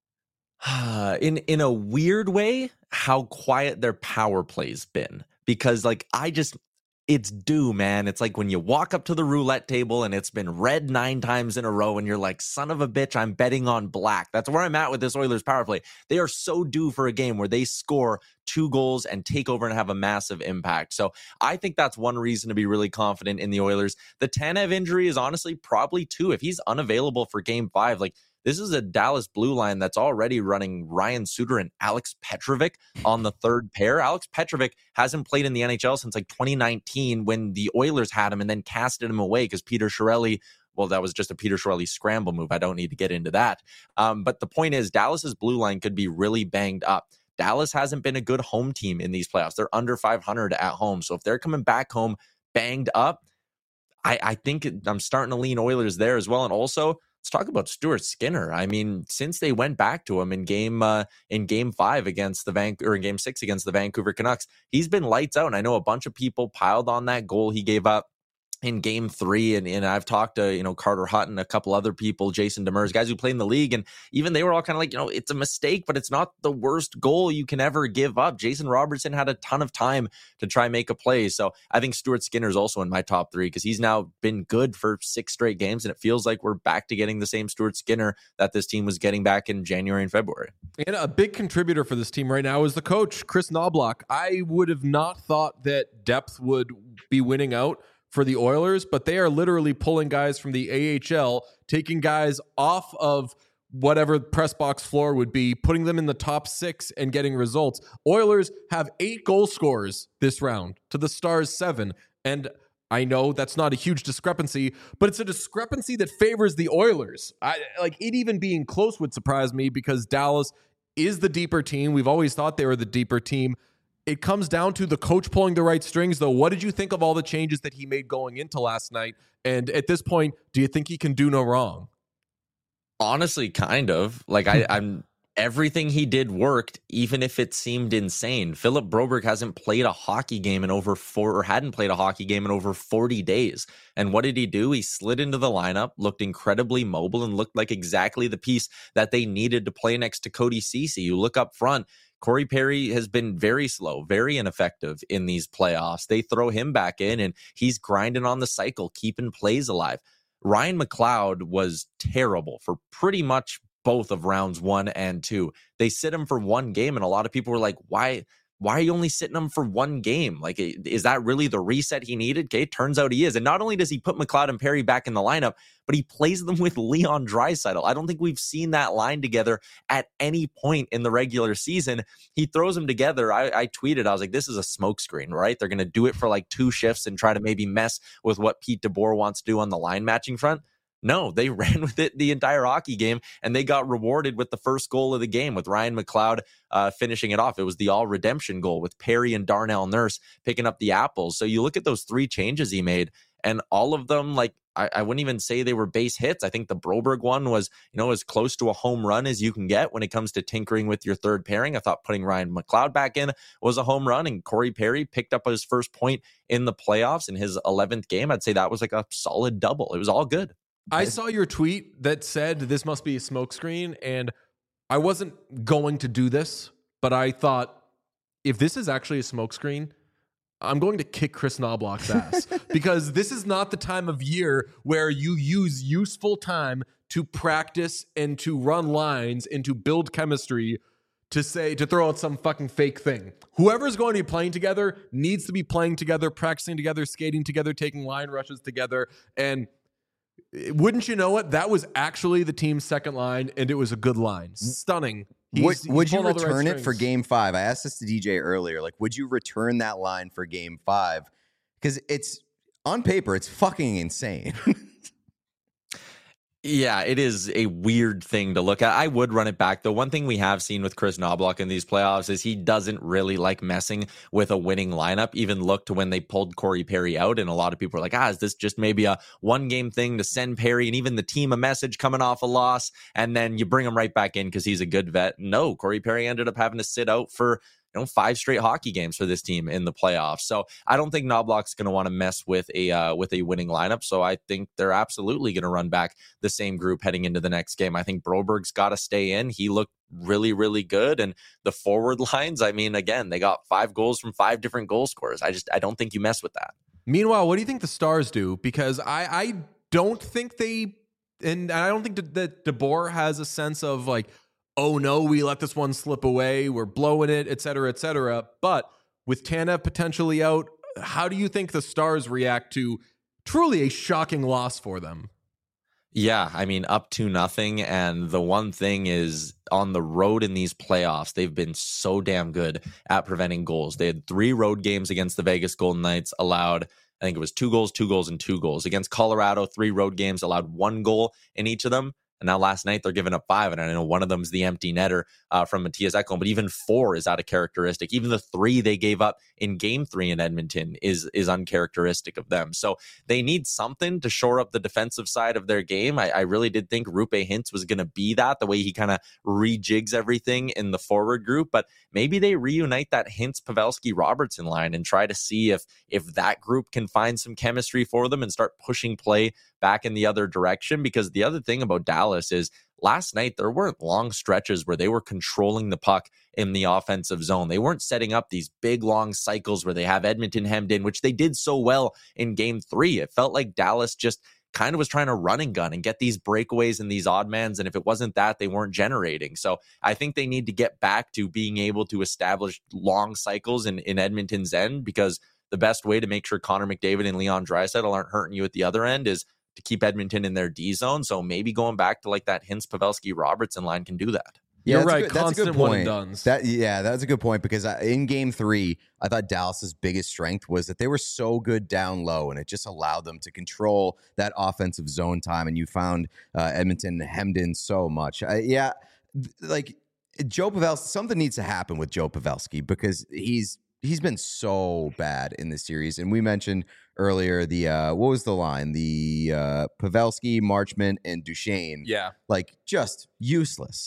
in in a weird way, how quiet their power play's been. Because, like, I just, it's due, man. It's like when you walk up to the roulette table and it's been red nine times in a row and you're like, son of a bitch, I'm betting on black. That's where I'm at with this Oilers power play. They are so due for a game where they score two goals and take over and have a massive impact. So I think that's one reason to be really confident in the Oilers. The Tanev injury is honestly probably two. If he's unavailable for game five, like, this is a Dallas blue line that's already running Ryan Suter and Alex Petrovic on the third pair. Alex Petrovic hasn't played in the N H L since like twenty nineteen when the Oilers had him and then casted him away because Peter Chiarelli, well, that was just a Peter Chiarelli scramble move. I don't need to get into that. Um, but the point is, Dallas's blue line could be really banged up. Dallas hasn't been a good home team in these playoffs. They're under five hundred at home. So if they're coming back home banged up, I, I think I'm starting to lean Oilers there as well. And also, let's talk about Stuart Skinner. I mean, since they went back to him in game uh, in game five against the Van or in game six against the Vancouver Canucks, he's been lights out. And I know a bunch of people piled on that goal he gave up in game three. And, and I've talked to, you know, Carter Hutton, a couple other people, Jason Demers, guys who play in the league. And even they were all kind of like, you know, it's a mistake, but it's not the worst goal you can ever give up. Jason Robertson had a ton of time to try and make a play. So I think Stuart Skinner is also in my top three because he's now been good for six straight games. And it feels like we're back to getting the same Stuart Skinner that this team was getting back in January and February. And a big contributor for this team right now is the coach, Chris Knobloch. I would have not thought that depth would be winning out for the Oilers, but they are literally pulling guys from the A H L, taking guys off of whatever press box floor would be, putting them in the top six and getting results. Oilers have eight goal scorers this round to the Stars seven. And I know that's not a huge discrepancy, but it's a discrepancy that favors the Oilers. I, like it even being close would surprise me because Dallas is the deeper team. We've always thought they were the deeper team. It comes down to the coach pulling the right strings, though. What did you think of all the changes that he made going into last night? And at this point, do you think he can do no wrong? Honestly, kind of. Like I, I'm everything he did worked, even if it seemed insane. Philip Broberg hasn't played a hockey game in over four, or hadn't played a hockey game in over forty days. And what did he do? He slid into the lineup, looked incredibly mobile, and looked like exactly the piece that they needed to play next to Cody Ceci. You look up front, Corey Perry has been very slow, very ineffective in these playoffs. They throw him back in, and he's grinding on the cycle, keeping plays alive. Ryan McLeod was terrible for pretty much both of rounds one and two. They sit him for one game, and a lot of people were like, why why are you only sitting him for one game? Like, is that really the reset he needed? Okay, turns out he is. And not only does he put McLeod and Perry back in the lineup, but he plays them with Leon Draisaitl. I don't think we've seen that line together at any point in the regular season. He throws them together. I, I tweeted, I was like, this is a smokescreen, right? They're going to do it for like two shifts and try to maybe mess with what Pete DeBoer wants to do on the line matching front. No, they ran with it the entire hockey game, and they got rewarded with the first goal of the game with Ryan McLeod uh, finishing it off. It was the all redemption goal with Perry and Darnell Nurse picking up the apples. So you look at those three changes he made, and all of them, like, I, I wouldn't even say they were base hits. I think the Broberg one was, you know, as close to a home run as you can get when it comes to tinkering with your third pairing. I thought putting Ryan McLeod back in was a home run, and Corey Perry picked up his first point in the playoffs in his eleventh game. I'd say that was like a solid double. It was all good. I saw your tweet that said this must be a smokescreen, and I wasn't going to do this, but I thought if this is actually a smokescreen, I'm going to kick Chris Knobloch's ass because this is not the time of year where you use useful time to practice and to run lines and to build chemistry to say, to throw out some fucking fake thing. Whoever's going to be playing together needs to be playing together, practicing together, skating together, taking line rushes together, and wouldn't you know it? That was actually the team's second line, and it was a good line. Stunning. He's, would he's would you pulling all the right return it for strings. game five? I asked this to D J earlier. Like, would you return that line for game five? Because it's, on paper, it's fucking insane. Yeah, it is a weird thing to look at. I would run it back, though. One thing we have seen with Chris Knobloch in these playoffs is he doesn't really like messing with a winning lineup. Even look to when they pulled Corey Perry out, and a lot of people are like, ah, is this just maybe a one-game thing to send Perry and even the team a message coming off a loss, and then you bring him right back in because he's a good vet? No, Corey Perry ended up having to sit out for you know, five straight hockey games for this team in the playoffs. So I don't think Knobloch's going to want to mess with a uh, with a winning lineup. So I think they're absolutely going to run back the same group heading into the next game. I think Broberg's got to stay in. He looked really, really good. And the forward lines, I mean, again, they got five goals from five different goal scorers. I just, I don't think you mess with that. Meanwhile, what do you think the Stars do? Because I, I don't think they, and I don't think that, that DeBoer has a sense of like, oh no, we let this one slip away, we're blowing it, et cetera, et cetera. But with Tanev potentially out, how do you think the Stars react to truly a shocking loss for them? Yeah, I mean, up to nothing. And the one thing is, on the road in these playoffs, they've been so damn good at preventing goals. They had three road games against the Vegas Golden Knights, allowed, I think it was two goals, two goals, and two goals. Against Colorado, three road games, allowed one goal in each of them. And now last night they're giving up five. And I know one of them is the empty netter uh, from Matthias Ekholm, but even four is out of characteristic. Even the three they gave up in game three in Edmonton is is uncharacteristic of them. So they need something to shore up the defensive side of their game. I, I really did think Roope Hintz was going to be that, the way he kind of rejigs everything in the forward group. But maybe they reunite that Hintz, Pavelski, Robertson line and try to see if if that group can find some chemistry for them and start pushing play back in the other direction. Because the other thing about Dallas is last night there weren't long stretches where they were controlling the puck in the offensive zone. They weren't setting up these big long cycles where they have Edmonton hemmed in, which they did so well in game three. It felt like Dallas just kind of was trying to run and gun and get these breakaways and these odd mans. And if it wasn't that, they weren't generating. So I think they need to get back to being able to establish long cycles in, in Edmonton's end, because the best way to make sure Connor McDavid and Leon Draisaitl aren't hurting you at the other end is to keep Edmonton in their D zone. So maybe going back to like that Hintz, Pavelski, Robertson line can do that. Yeah, You're that's right. A good, that's a Constant good one point. and dones. That yeah, that's a good point, because I, in game three, I thought Dallas's biggest strength was that they were so good down low, and it just allowed them to control that offensive zone time. And you found uh, Edmonton hemmed in so much. Uh, yeah, th- like Joe Pavelski, something needs to happen with Joe Pavelski, because he's he's been so bad in this series. And we mentioned earlier the uh, what was the line? The uh, Pavelski, Marchment, and Duchesne. Yeah. Like just useless.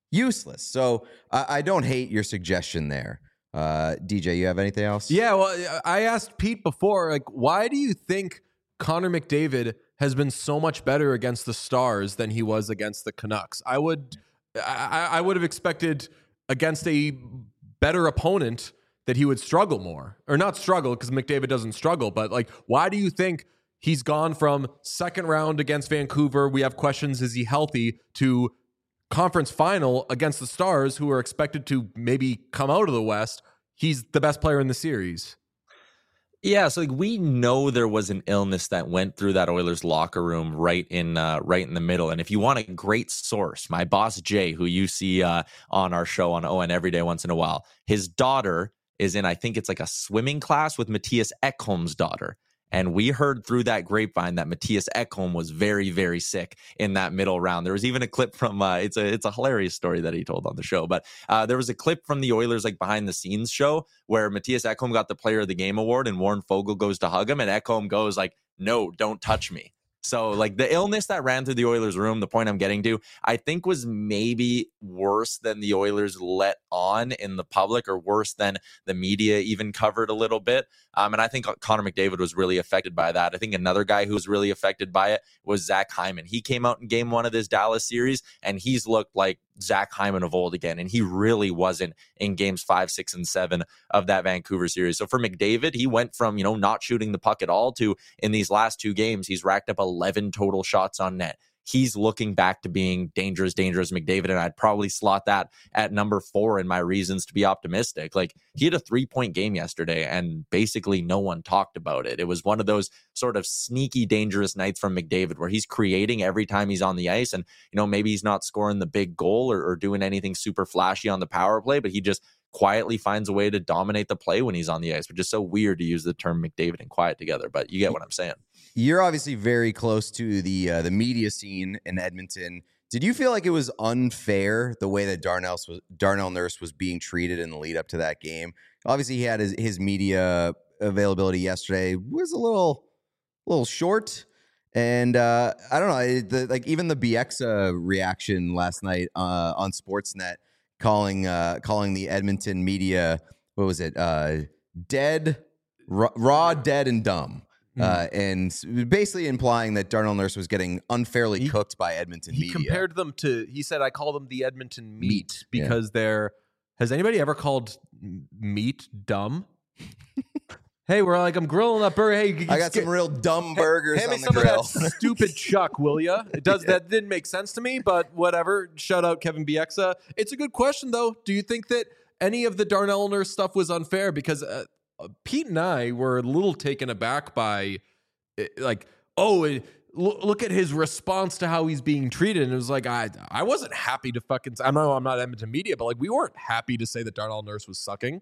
useless. So I, I don't hate your suggestion there. Uh, D J, you have anything else? Yeah, well, I asked Pete before, like, why do you think Connor McDavid has been so much better against the Stars than he was against the Canucks? I would, I, I would have expected against a better opponent that he would struggle more, or not struggle because McDavid doesn't struggle, but like, why do you think he's gone from second round against Vancouver? We have questions. Is he healthy? To conference final against the Stars, who are expected to maybe come out of the West. He's the best player in the series. Yeah, so like we know there was an illness that went through that Oilers locker room right in uh, right in the middle. And if you want a great source, my boss Jay, who you see uh, on our show on O N every day once in a while, his daughter is in, I think it's like a swimming class with Matthias Ekholm's daughter. And we heard through that grapevine that Matthias Ekholm was very, very sick in that middle round. There was even a clip from uh, it's a it's a hilarious story that he told on the show. But uh, there was a clip from the Oilers like behind the scenes show where Matthias Ekholm got the Player of the Game award, and Warren Fogle goes to hug him, and Ekholm goes like, "No, don't touch me." So like the illness that ran through the Oilers room, the point I'm getting to, I think was maybe worse than the Oilers let on in the public, or worse than the media even covered a little bit. Um, and I think Connor McDavid was really affected by that. I think another guy who was really affected by it was Zach Hyman. He came out in game one of this Dallas series, and he's looked like Zach Hyman of old again. And he really wasn't in games five, six, and seven of that Vancouver series. So for McDavid, he went from, you know, not shooting the puck at all to in these last two games, he's racked up eleven total shots on net. He's looking back to being dangerous, dangerous McDavid, and I'd probably slot that at number four in my reasons to be optimistic. Like, he had a three-point game yesterday, and basically no one talked about it. It was one of those sort of sneaky, dangerous nights from McDavid where he's creating every time he's on the ice, and, you know, maybe he's not scoring the big goal or, or doing anything super flashy on the power play, but he just quietly finds a way to dominate the play when he's on the ice, which is so weird to use the term McDavid and quiet together, but you get what I'm saying. You're obviously very close to the uh, the media scene in Edmonton. Did you feel like it was unfair the way that Darnell was Darnell Nurse was being treated in the lead up to that game? Obviously, he had his, his media availability yesterday was a little little short, and uh, I don't know, the, like even the Bieksa reaction last night uh, on Sportsnet, calling uh, calling the Edmonton media, what was it, uh, dead, raw, raw, dead, and dumb. Uh, and basically implying that Darnell Nurse was getting unfairly he, cooked by Edmonton he media. He compared them to, he said, I call them the Edmonton meat, meat because yeah. they're, has anybody ever called meat dumb? Hey, we're like, I'm grilling that burger. Hey, I got get, some real dumb burgers hey, on me the some grill. Of that stupid chuck, will ya? It does. Yeah. That didn't make sense to me, but whatever. Shout out Kevin Bieksa. It's a good question, though. Do you think that any of the Darnell Nurse stuff was unfair? Because uh, Pete and I were a little taken aback by, like, oh, it, look at his response to how he's being treated. And it was like, I I wasn't happy to fucking, I know I'm not Edmonton media, but like, we weren't happy to say that Darnell Nurse was sucking.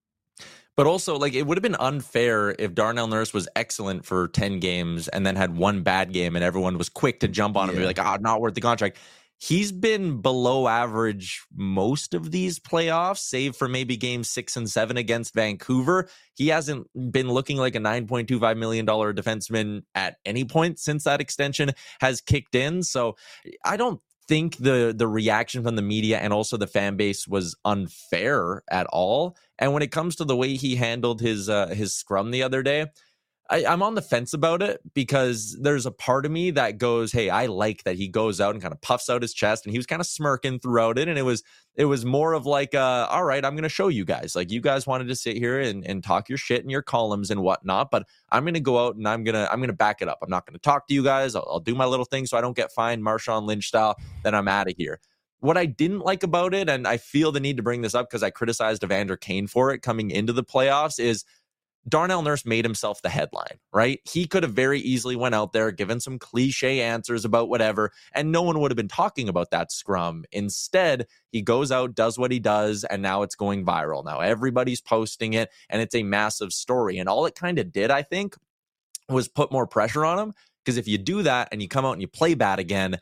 But also, like, it would have been unfair if Darnell Nurse was excellent for ten games and then had one bad game and everyone was quick to jump on him yeah. and be like, ah, oh, not worth the contract. He's been below average most of these playoffs, save for maybe game six and seven against Vancouver. He hasn't been looking like a nine point two five million dollars defenseman at any point since that extension has kicked in. So I don't think the the reaction from the media and also the fan base was unfair at all. And when it comes to the way he handled his uh, his scrum the other day, I, I'm on the fence about it, because there's a part of me that goes, hey, I like that he goes out and kind of puffs out his chest, and he was kind of smirking throughout it. And it was it was more of like, uh, all right, I'm going to show you guys. Like, you guys wanted to sit here and, and talk your shit in your columns and whatnot, but I'm going to go out and I'm going to I'm going to back it up. I'm not going to talk to you guys. I'll, I'll do my little thing so I don't get fined Marshawn Lynch style. Then I'm out of here. What I didn't like about it, and I feel the need to bring this up because I criticized Evander Kane for it coming into the playoffs, is Darnell Nurse made himself the headline, right? He could have very easily went out there, given some cliche answers about whatever, and no one would have been talking about that scrum. Instead, he goes out, does what he does, and now it's going viral. Now everybody's posting it, and it's a massive story. And all it kind of did, I think, was put more pressure on him, because if you do that and you come out and you play bad again,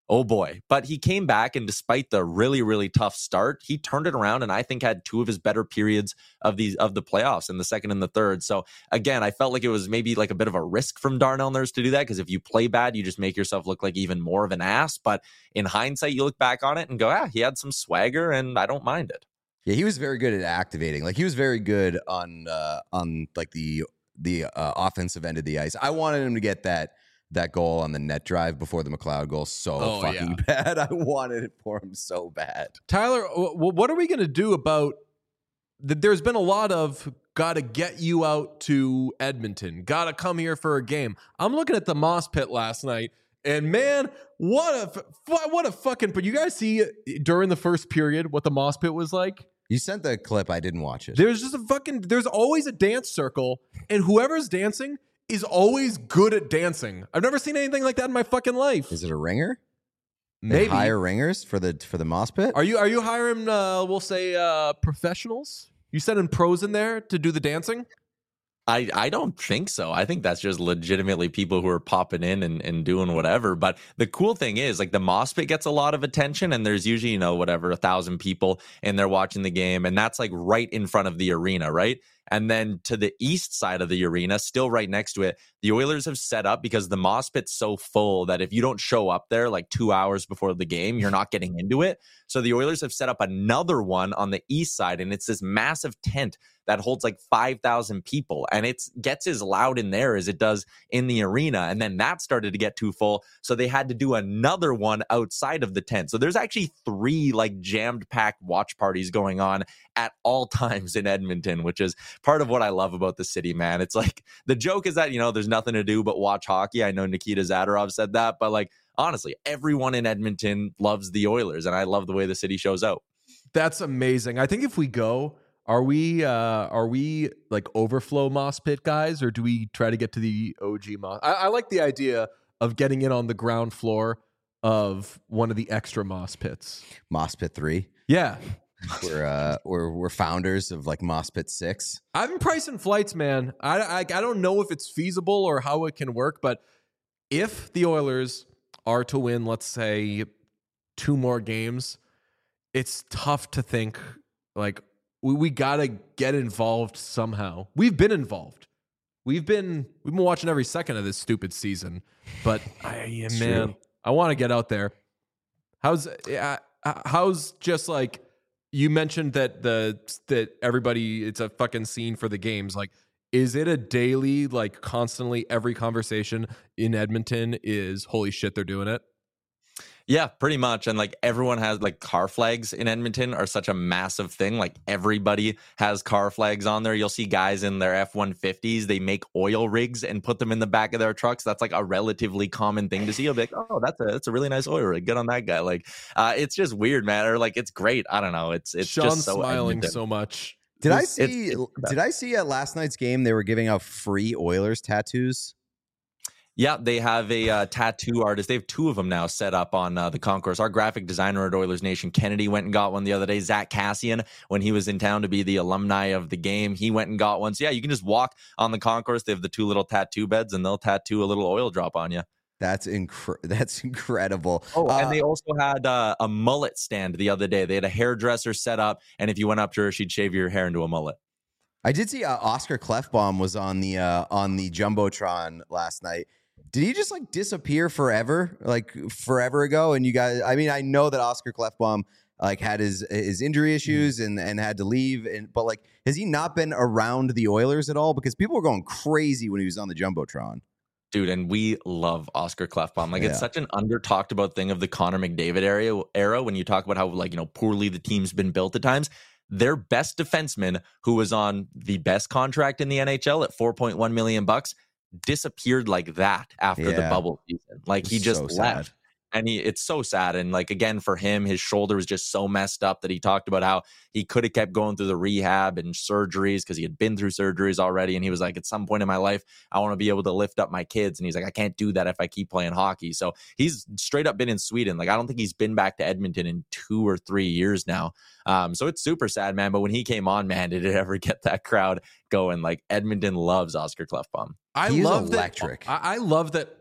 Oh boy. But he came back, and despite the really, really tough start, he turned it around and I think had two of his better periods of these of the playoffs in the second and the third. So again, I felt like it was maybe like a bit of a risk from Darnell Nurse to do that, because if you play bad, you just make yourself look like even more of an ass. But in hindsight, you look back on it and go, ah, he had some swagger and I don't mind it. Yeah, he was very good at activating. Like he was very good on uh, on like the the uh, offensive end of the ice. I wanted him to get that that goal on the net drive before the McLeod goal so Oh, fucking yeah. bad. I wanted it for him so bad. Tyler, w- w- what are we going to do about that? There's been a lot of got to get you out to Edmonton, got to come here for a game. I'm looking at the Moss Pit last night, and man, what a f- what a fucking. But you guys see during the first period what the Moss Pit was like? You sent the clip. I didn't watch it. There's just a fucking. There's always a dance circle, and whoever's dancing is always good at dancing. I've never seen anything like that in my fucking life. Is it a ringer? They Maybe. hire ringers for the for the Moss Pit? Are you are you hiring? Uh, we'll say uh, professionals. You sending pros in there to do the dancing? I, I don't think so. I think that's just legitimately people who are popping in and, and doing whatever. But the cool thing is, like, the Moss Pit gets a lot of attention, and there's usually, you know, whatever, a thousand people and they're watching the game. And that's like right in front of the arena, right? And then to the east side of the arena, still right next to it, the Oilers have set up, because the Moss Pit's so full that if you don't show up there like two hours before the game, you're not getting into it. So the Oilers have set up another one on the east side, and it's this massive tent that holds like five thousand people, and it gets as loud in there as it does in the arena. And then that started to get too full, so they had to do another one outside of the tent. So there's actually three like jammed packed watch parties going on at all times in Edmonton, which is part of what I love about the city, man. It's like, the joke is that, you know, there's nothing to do but watch hockey. I know Nikita Zadorov said that, but like, honestly, everyone in Edmonton loves the Oilers, and I love the way the city shows out. That's amazing. I think if we go, are we uh, are we like overflow Moss Pit guys, or do we try to get to the O G Moss? I, I like the idea of getting in on the ground floor of one of the extra Moss Pits. Moss Pit three. Yeah. We're uh we're we're founders of like Moss Pit six. I've been pricing flights, man. I, I I don't know if it's feasible or how it can work, but if the Oilers are to win, let's say, two more games, it's tough to think like we, we gotta get involved somehow. We've been involved. We've been we've been watching every second of this stupid season. But I yeah, man, true. I want to get out there. How's uh, how's just like you mentioned that the that everybody, it's a fucking scene for the games. Like, is it a daily, like constantly every conversation in Edmonton is holy shit, they're doing it? Yeah, pretty much. And like everyone has like car flags in Edmonton are such a massive thing. Like everybody has car flags on there. You'll see guys in their F one fifties. They make oil rigs and put them in the back of their trucks. That's like a relatively common thing to see. You'll be like, oh, that's a that's a really nice oil rig. Good on that guy. Like, uh, it's just weird, man. Or like, it's great. I don't know. It's it's Sean's just so smiling Edmonton. so much. Did I It's- see? it's- it's- did I see at last night's game they were giving out free Oilers tattoos? Yeah, they have a uh, tattoo artist. They have two of them now set up on uh, the concourse. Our graphic designer at Oilers Nation, Kennedy, went and got one the other day. Zach Cassian, when he was in town to be the alumni of the game, he went and got one. So yeah, you can just walk on the concourse. They have the two little tattoo beds, and they'll tattoo a little oil drop on you. That's incre- That's incredible. Oh, Uh, and they also had uh, a mullet stand the other day. They had a hairdresser set up, and if you went up to her, she'd shave your hair into a mullet. I did see uh, Oscar Clefbaum was on the uh, on the jumbotron last night. Did he just like disappear forever, like forever ago? And you guys, I mean, I know that Oscar Clefbaum like had his his injury issues and and had to leave, and but like, has he not been around the Oilers at all? Because people were going crazy when he was on the jumbotron. Dude, and we love Oscar Clefbaum. Like, Yeah. it's such an under talked about thing of the Connor McDavid era, era when you talk about how, like, you know, poorly the team's been built at times. Their best defenseman, who was on the best contract in the N H L at four point one million bucks, disappeared like that after the Yeah. bubble season. Like, he It's just so left. sad. And he, it's so sad. And like, again, for him, his shoulder was just so messed up that he talked about how he could have kept going through the rehab and surgeries because he had been through surgeries already. And he was like, at some point in my life, I want to be able to lift up my kids. And he's like, I can't do that if I keep playing hockey. So he's straight up been in Sweden. Like, I don't think he's been back to Edmonton in two or three years now. Um, so it's super sad, man. But when he came on, man, did it ever get that crowd going? Like, Edmonton loves Oscar Clefbaum. I He is love electric. that. I, I love that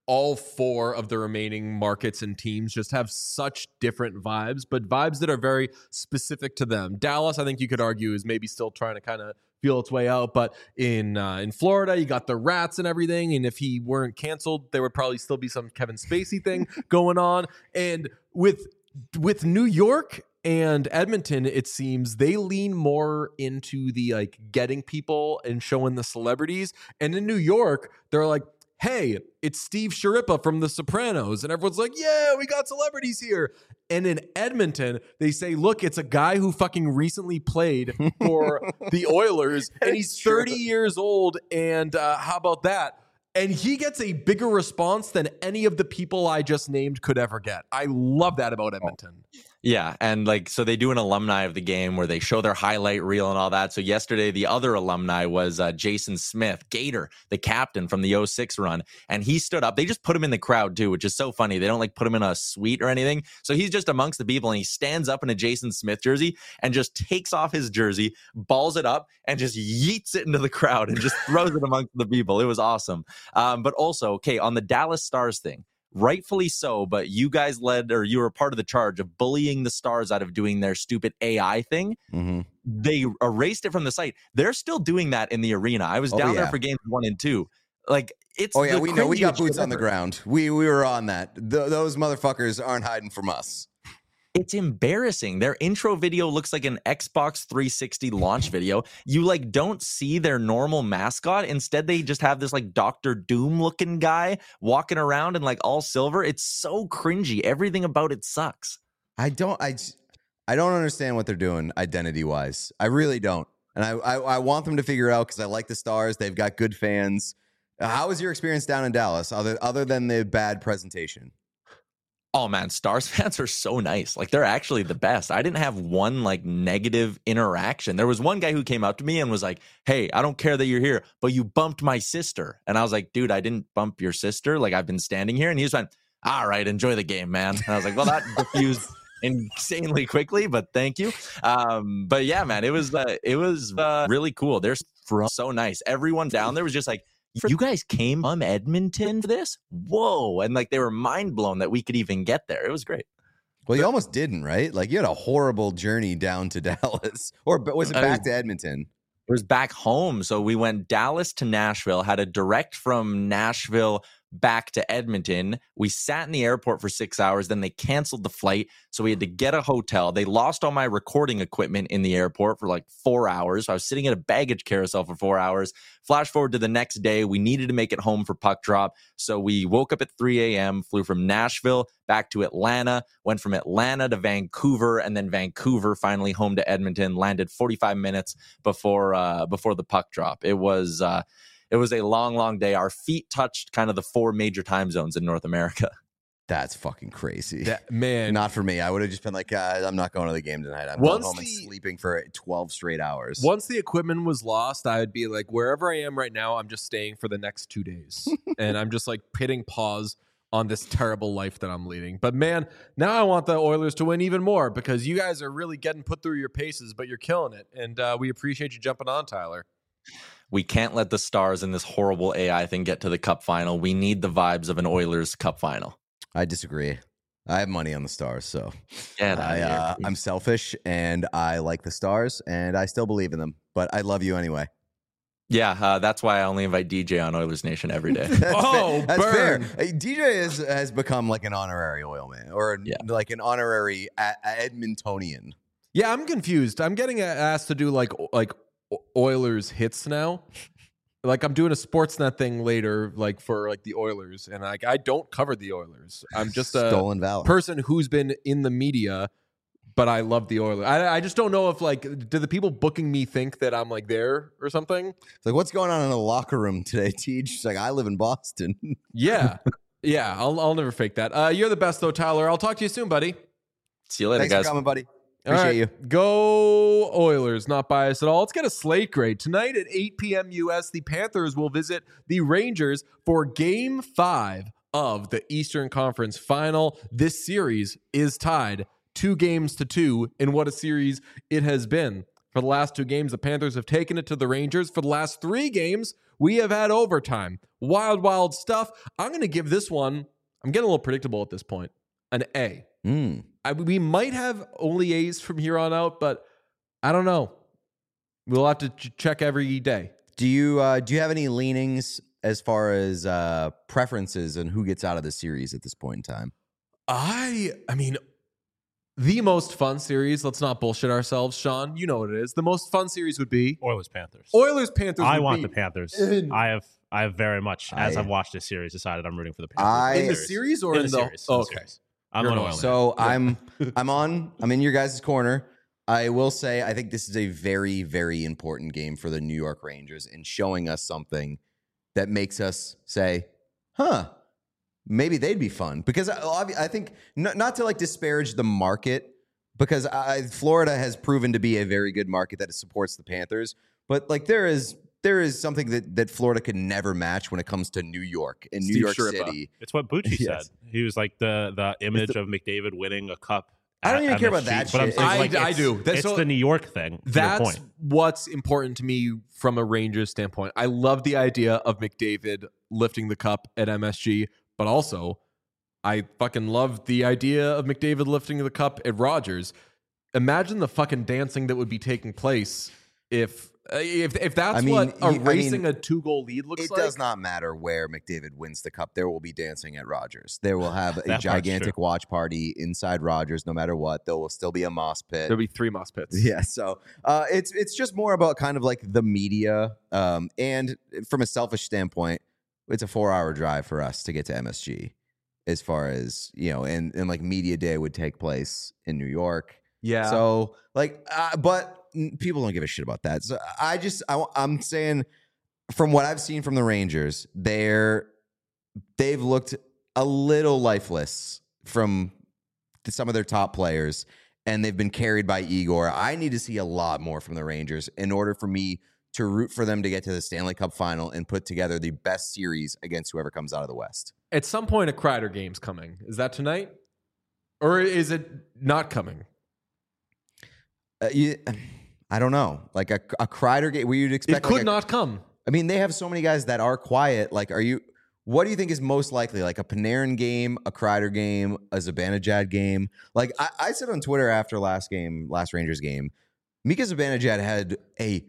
all four of the remaining markets and teams just have such different vibes, but vibes that are very specific to them. Dallas, I think you could argue, is maybe still trying to kind of feel its way out, but in uh, in Florida, you got the rats and everything, and if he weren't canceled, there would probably still be some Kevin Spacey thing going on. And with with New York and Edmonton, it seems they lean more into the like getting people and showing the celebrities. And in New York, they're like, hey, it's Steve Sharippa from The Sopranos. And everyone's like, yeah, we got celebrities here. And in Edmonton, they say, look, it's a guy who fucking recently played for the Oilers, and he's thirty years old. And uh, how about that? And he gets a bigger response than any of the people I just named could ever get. I love that about Edmonton. Yeah, and like, so they do an alumni of the game where they show their highlight reel and all that. So yesterday, the other alumni was uh, Jason Smith, Gator, the captain from the oh six run. And he stood up. They just put him in the crowd too, which is so funny. They don't like put him in a suite or anything. So he's just amongst the people, and he stands up in a Jason Smith jersey and just takes off his jersey, balls it up, and just yeets it into the crowd and just throws it amongst the people. It was awesome. Um, but also, okay, on the Dallas Stars thing, rightfully so, but you guys led, or you were part of the charge of bullying the Stars out of doing their stupid A I thing. Mm-hmm. They erased it from the site. They're still doing that in the arena. I was Oh, down yeah. there for games one and two. Like, it's Oh yeah, the we know we got cringiest boots shit on the ever. ground. We we were on that. Th- those motherfuckers aren't hiding from us. It's embarrassing. Their intro video looks like an Xbox three sixty launch video. You like don't see their normal mascot. Instead, they just have this like Doctor Doom looking guy walking around in like all silver. It's so cringy. Everything about it sucks. I don't I j- I don't understand what they're doing identity wise. I really don't. And I I, I want them to figure it out because I like the Stars. They've got good fans. Uh, How was your experience down in Dallas other other than the bad presentation? Oh man, Stars fans are so nice. Like they're actually the best. I didn't have one like negative interaction. There was one guy who came up to me and was like, "Hey, I don't care that you're here, but you bumped my sister." And I was like, "Dude, I didn't bump your sister. Like I've been standing here." And he was like, "All right, enjoy the game, man." And I was like, "Well, that diffused insanely quickly, but thank you." Um, but yeah, man, it was uh, it was uh, really cool. They're so nice. Everyone down there was just like, "You guys came from Edmonton for this? Whoa." And like they were mind blown that we could even get there. It was great. Well, you almost didn't, right? Like you had a horrible journey down to Dallas, or but was it I back was- to Edmonton? It was back home. So we went Dallas to Nashville, had a direct from Nashville back to Edmonton. We sat in the airport for six hours. Then they canceled the flight. So we had to get a hotel. They lost all my recording equipment in the airport for like four hours. So I was sitting at a baggage carousel for four hours. Flash forward to the next day. We needed to make it home for puck drop. So we woke up at three a.m., flew from Nashville back to Atlanta, went from Atlanta to Vancouver, and then Vancouver finally home to Edmonton, landed forty-five minutes before uh, before the puck drop. It was uh, it was a long, long day. Our feet touched kind of the four major time zones in North America. That's fucking crazy. That, man, Not for me. I would have just been like, uh, I'm not going to the game tonight. I'm going Once home and the- sleeping for twelve straight hours. once the equipment was lost, I would be like, wherever I am right now, I'm just staying for the next two days. And I'm just like hitting pause on this terrible life that I'm leading. But man, now I want the Oilers to win even more because you guys are really getting put through your paces, but you're killing it. And uh, we appreciate you jumping on, Tyler. We can't let the Stars in this horrible A I thing get to the Cup final. We need the vibes of an Oilers Cup final. I disagree. I have money on the Stars, so Get I, outta here. uh, I'm selfish and I like the Stars and I still believe in them. But I love you anyway. Yeah, uh, that's why I only invite D J on Oilers Nation every day. That's Oh, fair. That's burn. fair. Hey, D J is, has become like an honorary oil man or Yeah. like an honorary a- a- Edmontonian. Yeah, I'm confused. I'm getting asked to do like like Oilers hits now. Like I'm doing a Sportsnet thing later, like for like the Oilers, and like I don't cover the Oilers. I'm just a Stolen valor. person who's been in the media, but I love the Oilers. I, I just don't know if like do the people booking me think that I'm like there or something. It's like, what's going on in the locker room today, Teach? She's like, I live in Boston. Yeah, yeah. I'll I'll never fake that. Uh, you're the best though, Tyler. I'll talk to you soon, buddy. See you later, Thanks guys. for coming, buddy. All Appreciate right, you. Go Oilers, not biased at all. Let's get a slate grade. Tonight at eight p.m. U S, the Panthers will visit the Rangers for game five of the Eastern Conference Final. This series is tied two games to two in what a series it has been. For the last two games, the Panthers have taken it to the Rangers. For the last three games, we have had overtime. Wild, wild stuff. I'm going to give this one, I'm getting a little predictable at this point, an A. Mm. I, we might have only A's from here on out, but I don't know. We'll have to ch- check every day. Do you uh, do you have any leanings as far as uh, preferences and who gets out of the series at this point in time? I, I mean, the most fun series, let's not bullshit ourselves, Sean. You know what it is. The most fun series would be Oilers Panthers. Oilers Panthers. I would want be the Panthers. in- I have I have very much, as I- I've watched this series, decided I'm rooting for the Panthers. I- in the series or in, in the, series. Oh, in the okay. series. I'm You're an an Oilers. So I'm I'm on I'm in your guys' corner. I will say I think this is a very, very important game for the New York Rangers in showing us something that makes us say, huh, maybe they'd be fun. Because I, I think, not, not to like disparage the market, because I, Florida has proven to be a very good market that supports the Panthers. But like there is there is something that, that Florida could never match when it comes to New York and New Steve York Sherpa. City. It's what Bucci Yes. said. He was like the the image of McDavid winning a cup. I don't at even care about M S G, that But I'm shit. saying, I- like, I it's- do. That's It's so- the New York thing. to your That's point. what's important to me from a Rangers standpoint. I love the idea of McDavid lifting the cup at M S G, but also I fucking love the idea of McDavid lifting the cup at Rogers. Imagine the fucking dancing that would be taking place if uh, if if that's I mean, what you- I erasing mean, a two goal lead looks It like. does not matter where McDavid wins the cup. There will be dancing at Rogers. There will have a That part's gigantic true. watch party inside Rogers, no matter what. There will still be a moss pit. There'll be three moss pits. Yeah, so uh, it's it's just more about kind of like the media, um, and from a selfish standpoint, it's a four-hour drive for us to get to M S G, as far as you know, and and like media day would take place in New York. Yeah. So like, uh, but n- people don't give a shit about that. So I just I, I'm saying, from what I've seen from the Rangers, they're they've looked a little lifeless from some of their top players, and they've been carried by Igor. I need to see a lot more from the Rangers in order for me to root for them to get to the Stanley Cup final and put together the best series against whoever comes out of the West. At some point, a Kreider game's coming. Is that tonight, or is it not coming? Uh, you, I don't know. Like a, a Kreider game, where you'd expect. It could like a- not come. I mean, they have so many guys that are quiet. Like, are you? What do you think is most likely? Like a Panarin game, a Kreider game, a Zibanejad game? Like I, I said on Twitter after last game, last Rangers game, Mika Zibanejad had a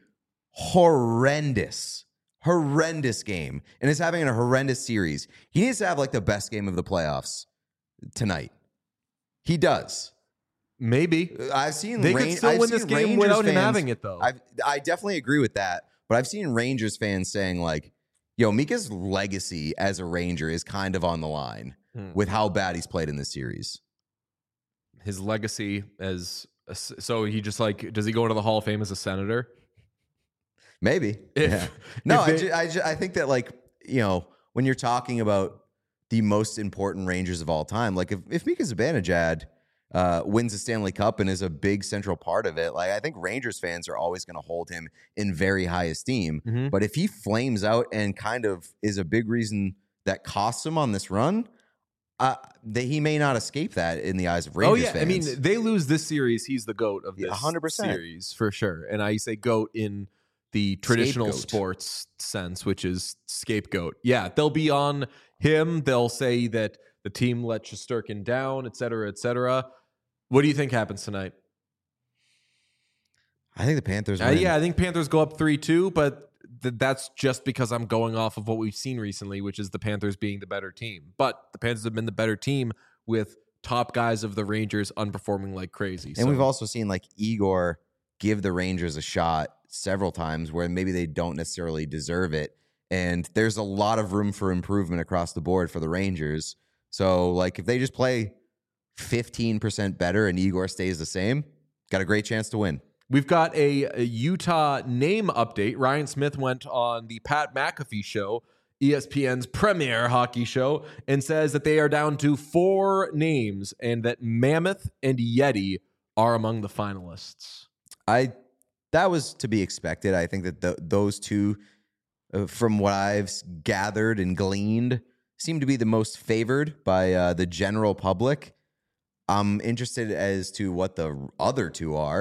horrendous, horrendous game and is having a horrendous series. He needs to have like the best game of the playoffs tonight. He does. Maybe I've seen they Ran- could still I've win this seen game Rangers without him fans- having it, though. I've, I definitely agree with that. But I've seen Rangers fans saying like, yo, Mika's legacy as a Ranger is kind of on the line Hmm. with how bad he's played in this series. His legacy as a, so he just like does he go into the Hall of Fame as a senator? Maybe. If- yeah. No, if I, they- ju- I, ju- I think that like, you know, when you're talking about the most important Rangers of all time, like if, if Mika Zibanejad uh, wins the Stanley Cup and is a big central part of it, like I think Rangers fans are always going to hold him in very high esteem. Mhm. But if he flames out and kind of is a big reason that costs him on this run, uh, that he may not escape that in the eyes of Rangers oh yeah, fans. I mean they lose this series, he's the GOAT of Yeah, this one hundred percent. series for sure. And I say GOAT in the traditional Scapegoat. sports sense, which is scapegoat. Yeah, they'll be on him. They'll say that the team let Shesterkin down, et cetera, et cetera. What do you think happens tonight? I think the Panthers Uh, win. yeah, I think Panthers go up three two, but th- that's just because I'm going off of what we've seen recently, which is the Panthers being the better team. But the Panthers have been the better team with top guys of the Rangers unperforming like crazy. And So- we've also seen like Igor give the Rangers a shot several times where maybe they don't necessarily deserve it. And there's a lot of room for improvement across the board for the Rangers. So like if they just play fifteen percent better and Igor stays the same, got a great chance to win. We've got a, a Utah name update. Ryan Smith went on the Pat McAfee show, E S P N's premier hockey show, and says that they are down to four names and that Mammoth and Yeti are among the finalists. I that was to be expected. I think that the, those two, uh, from what I've s- gathered and gleaned, seem to be the most favored by uh, the general public. I'm interested as to what the other two are.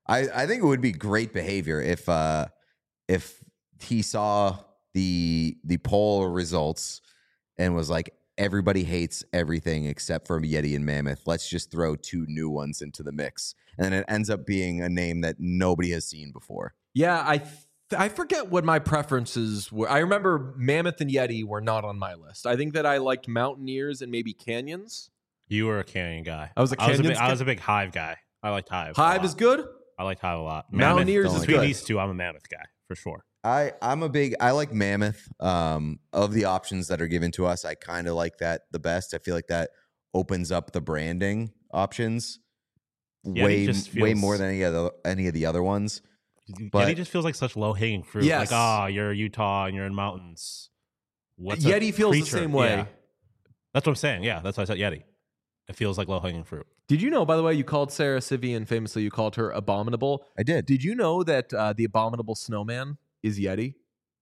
I, I think it would be great behavior if uh, if he saw the the poll results and was like, everybody hates everything except for Yeti and Mammoth. Let's just throw two new ones into the mix. And then it ends up being a name that nobody has seen before. Yeah, I th- I forget what my preferences were. I remember Mammoth and Yeti were not on my list. I think that I liked Mountaineers and maybe Canyons. You were a Canyon guy. I was a I was a, Canyons big, I guy? was a big Hive guy. I liked Hive. a Hive lot. is good. I liked Hive a lot. Mountaineers Mammoth, is between good. these two, I'm a Mammoth guy for sure. I, I'm a big, I like Mammoth. Um, of the options that are given to us, I kind of like that the best. I feel like that opens up the branding options Yeah, way, it just way feels- more than any of the, any of the other ones. But But- Yeti just feels like such low hanging fruit. Yes. Like, ah, you're Utah and you're in mountains. What's a Yeti feels the creature? same way. Yeah. That's what I'm saying. Yeah, that's why I said Yeti. It feels like low hanging fruit. Did you know, by the way, you called Sarah Sivian, famously, you called her Abominable. I did. Did you know that uh, the Abominable Snowman is Yeti?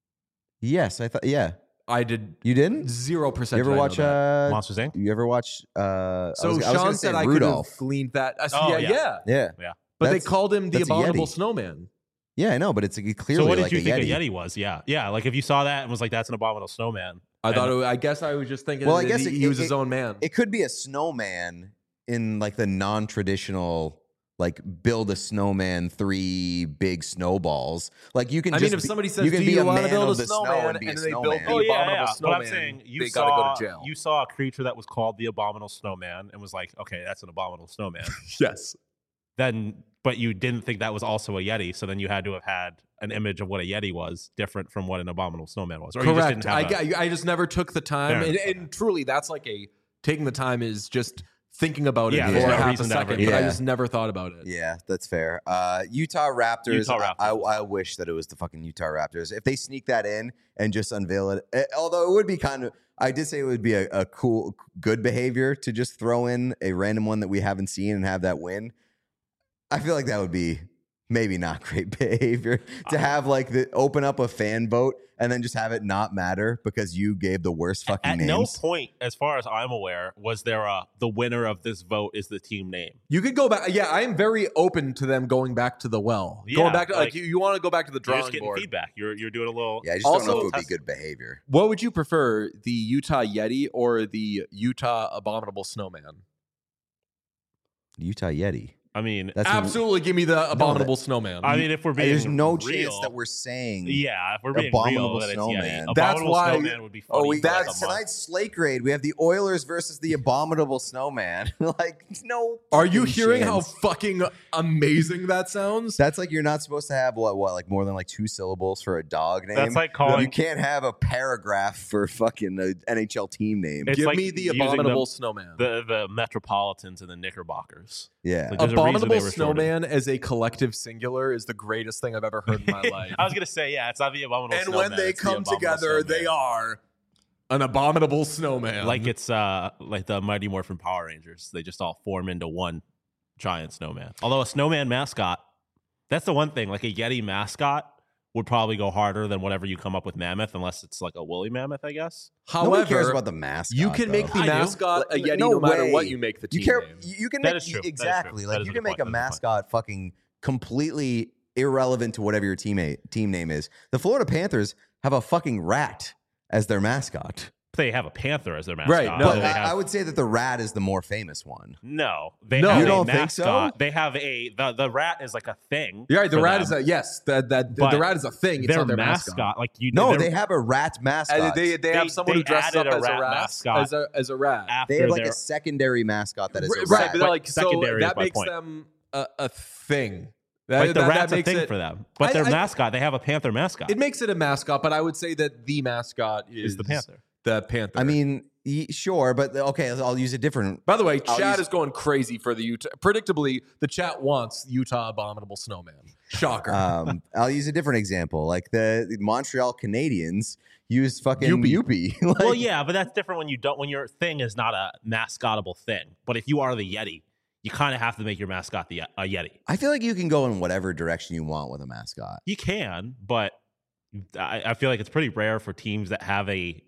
Yes, I thought, yeah. I did You didn't? zero percent. You ever did I know watch, that. uh, Monsters Incorporated? you ever watch, uh, I So was, I was Sean gonna said say I Rudolph. could have gleaned that. I said, Oh, yeah, yeah. yeah, Yeah. Yeah. But they That's- called him the that's a Abominable Yeti. Snowman. Yeah, I know, but it's like, clearly So what did like you a think Yeti. a Yeti was? Yeah. Yeah. Like if you saw that and was like, that's an abominable snowman. I And- thought. It, I guess I was just thinking. Well, I that guess he, it- he was it- his own man. It could be a snowman in like the non-traditional, like build a snowman, three big snowballs. Like you can. I just mean, if be- somebody says, you can "Do be you a want to man build of a the snow snowman?" and be a and then they built snowman. the Oh yeah, Abominable yeah. But Snowman, I'm saying you they saw gotta go to jail. you saw a creature that was called the abominable snowman and was like, okay, that's an abominable snowman. Yes. Then, but you didn't think that was also a Yeti, so then you had to have had an image of what a Yeti was, different from what an abominable snowman was. Or you just Correct. didn't have I, a- got- I just never took the time, Fair and, enough. and truly, that's like a taking the time is just thinking about it Yeah, for there's no half a reason to ever second. do But I that. just never thought about it. Yeah, that's fair. Uh, Utah Raptors. Utah I- I, Raptors. I wish that it was the fucking Utah Raptors. If they sneak that in and just unveil it, eh, although it would be kind of, I did say it would be a, a cool, good behavior to just throw in a random one that we haven't seen and have that win. I feel like that would be maybe not great behavior to have like the open up a fan vote and then just have it not matter because you gave the worst fucking At names. no point, as far as I'm aware, was there a the winner of this vote is the team name. You could go back. Yeah, I am very open to them going back to the well. Yeah, going back to like, like, you, you want to go back to the You're just drawing getting board. feedback. You're you're doing a little. Yeah, I just don't know Also- if it would be Test- good behavior. What would you prefer, the Utah Yeti or the Utah Abominable Snowman? Utah Yeti. I mean, That's Absolutely, give me the Abominable Snowman. I mean, if we're being There's no real, chance that we're saying. Yeah, if we're being Abominable real, then it's Snowman. Yeti. That's Abominable why- Snowman would be Oh, funny. we for like got a month. tonight's slate grade. We have the Oilers versus the Abominable Snowman. Like, no. Are you fucking hearing how chance. fucking amazing that sounds? That's like you're not supposed to have what what like more than like two syllables for a dog name. That's like calling- You can't have a paragraph for fucking an N H L team name. It's Give like me the using Abominable the- Snowman. the the Metropolitans and the Knickerbockers. Yeah. Like, there's a reason Abominable they were shortened. Snowman as a collective singular is the greatest thing I've ever heard in my life. I was gonna say, yeah, it's not the abominable. and snowman, when they it's the come abominable together, they snowman. are an abominable snowman. like it's uh like the Mighty Morphin Power Rangers. They just all form into one giant snowman. Although a snowman mascot, that's the one thing. Like a Yeti mascot would probably go harder than whatever you come up with Mammoth, unless it's like a woolly mammoth, I guess. Nobody cares however, about the mascot. you can make though. the I do. mascot a Like, Yeti no no, matter way. what you make the team You care. name. You can That make is true. That is true. exactly That like is you a can good make a point. That is a good mascot fucking completely irrelevant to whatever your teammate team name is. The Florida Panthers have a fucking rat as their mascot. They have a panther as their mascot. Right, no. But They I, have- I would say that the rat is the more famous one. no, they No. have You a don't think so? mascot. They have a the, the rat is like a thing. You're right. The for rat them. is a yes. That that But the rat is a thing. It's their not their mascot. mascot. Like you, No, they're- they have a rat mascot. And they, they They- have someone they who dresses up added a as a rat rat mascot as a as a rat. after They have like their a secondary mascot that is a right, rat. but they're like so Secondary is that my makes point. them a, a thing. That, like the that- that rat's a makes thing it, for them, but I- their I- mascot, they have a panther mascot. It makes it a mascot, but I would say that the mascot is, is the panther. The panther. I mean, y- sure, but okay, I'll use a different. by the way, I'll chat use- is going crazy for the Utah. Predictably, the chat wants Utah Abominable Snowman. Shocker. Um, I'll use a different example. Like the, the Montreal Canadiens used fucking Youppi. Youppi. Like, Well, yeah, but that's different when you don't when your thing is not a mascotable thing. But if you are the Yeti, you kind of have to make your mascot the a Yeti. I feel like you can go in whatever direction you want with a mascot. You can, but I, I feel like it's pretty rare for teams that have a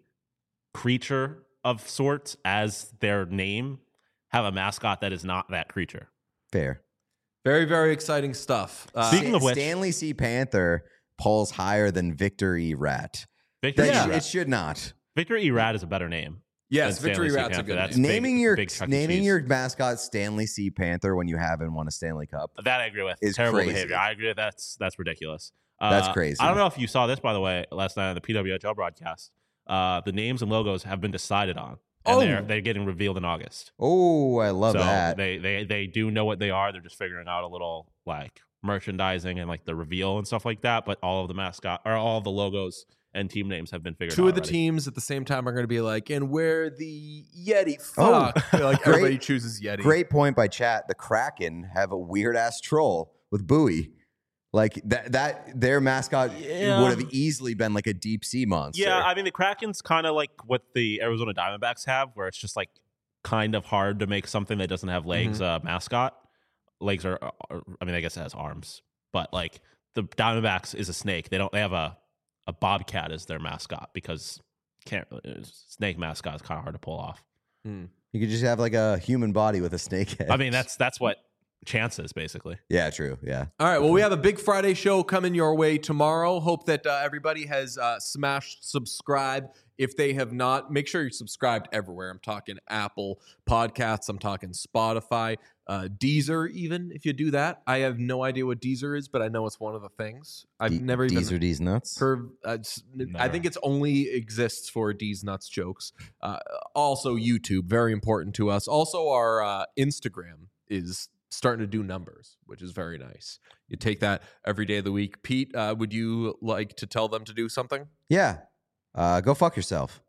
creature of sorts as their name have a mascot that is not that creature. Fair. Very, very exciting stuff. Uh, Speaking of which- Stanley C. Panther polls higher than Victor E. Rat. Victor That E. sh- Rat. it should not. Victor E. Rat is a better name. yes, than Victory Stanley C. Rat's a Panther. good That's name. big- naming your big Chuck E. naming Cheese. your mascot Stanley C. Panther when you haven't won a Stanley Cup. That I agree with. is Terrible crazy. behavior. I agree. That's that's ridiculous. Uh, That's crazy. I don't know if you saw this, by the way, last night on the P W H L broadcast. Uh, the names and logos have been decided on, and Oh. they're they're getting revealed in August. Oh, I love so that. they they they do know what they are. They're just figuring out a little like merchandising and like the reveal and stuff like that. But all of the mascot or all of the logos and team names have been figured out. Two of the already. teams at the same time are going to be like, and where the Yeti Oh, fuck. like great- everybody chooses Yeti. Great point by chat. The Kraken have a weird ass troll with Bowie. Like that that their mascot Yeah. would have easily been like a deep sea monster. Yeah, I mean the Kraken's kind of like what the Arizona Diamondbacks have, where it's just like kind of hard to make something that doesn't have legs Mm-hmm. uh, mascot. Legs are, are, I mean, I guess it has arms, but like the Diamondbacks is a snake. They don't. They have a a bobcat as their mascot because can't snake mascot is kind of hard to pull off. you could just have like a human body with a snake head. I mean, that's that's what Chance is basically. yeah, true. Yeah. All right. Well, we have a big Friday show coming your way tomorrow. Hope that uh, everybody has uh, smashed subscribe. If they have not, make sure you're subscribed everywhere. I'm talking Apple Podcasts. I'm talking Spotify, uh, Deezer. Even if you do that, I have no idea what Deezer is, but I know it's one of the things. I've D- never even D's or D's nuts. heard. Uh, s- I Never. think it's only exists for D's nuts jokes. Uh, also, YouTube, very important to us. Also, our uh, Instagram is starting to do numbers, which is very nice. You take that every day of the week. Pete, uh, would you like to tell them to do something? Yeah. Uh, go fuck yourself.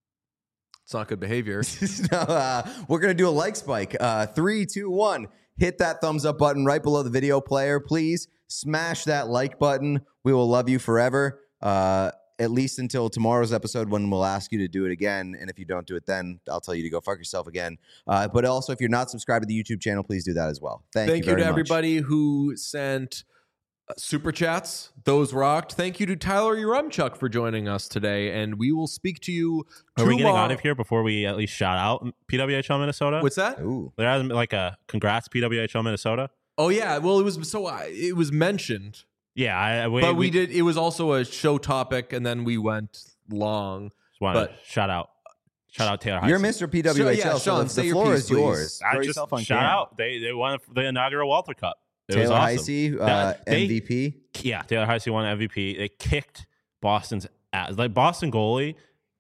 It's not good behavior. no, uh, we're going to do a like spike. Uh, three, two, one. Hit that thumbs up button right below the video player. Please smash that like button. We will love you forever. Uh, at least until tomorrow's episode when we'll ask you to do it again. And if you don't do it then, I'll tell you to go fuck yourself again. Uh, but also, if you're not subscribed to the YouTube channel, please do that as well. Thank, Thank you you, very to much. everybody who sent uh, super chats. Those rocked. Thank you to Tyler Urumchuk for joining us today. And we will speak to you Are tomorrow. we getting out of here before we at least shout out P W H L Minnesota? What's that? Ooh. There hasn't been like a congrats P W H L Minnesota. Oh, yeah. Well, it was so uh, it was mentioned. Yeah, I, we, But we, did. It was also a show topic, and then we went long. Just wanted but- to shout out, shout out Taylor. You're Heise. Mister P W H L, So, yeah, Sean, the, say the your floor piece, is yours. I Throw just yourself on shout camera. out. They they won the inaugural Walter Cup. It was Taylor awesome. Heise, uh, That- they- M V P. Yeah, Taylor Heise won M V P. They kicked Boston's ass. Like Boston goalie,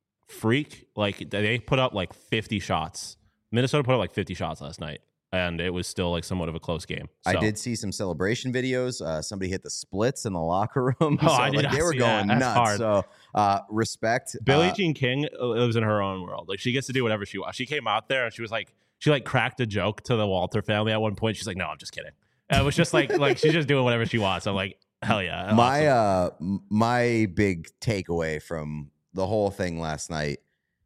freak. Like they put up like fifty shots. Minnesota put up like fifty shots last night, and it was still like somewhat of a close game. I So- did see some celebration videos. Uh, somebody hit the splits in the locker room. Oh, so, I did like, not they were see that. going That's nuts. hard. So uh, respect. Billie Uh, Jean King lives in her own world. Like she gets to do whatever she wants. She came out there and she was like, she like cracked a joke to the Walter family at one point. She's like, no, I'm just kidding. And it was just like, like she's just doing whatever she wants. I'm like, hell yeah. my awesome. uh, m- my big takeaway from the whole thing last night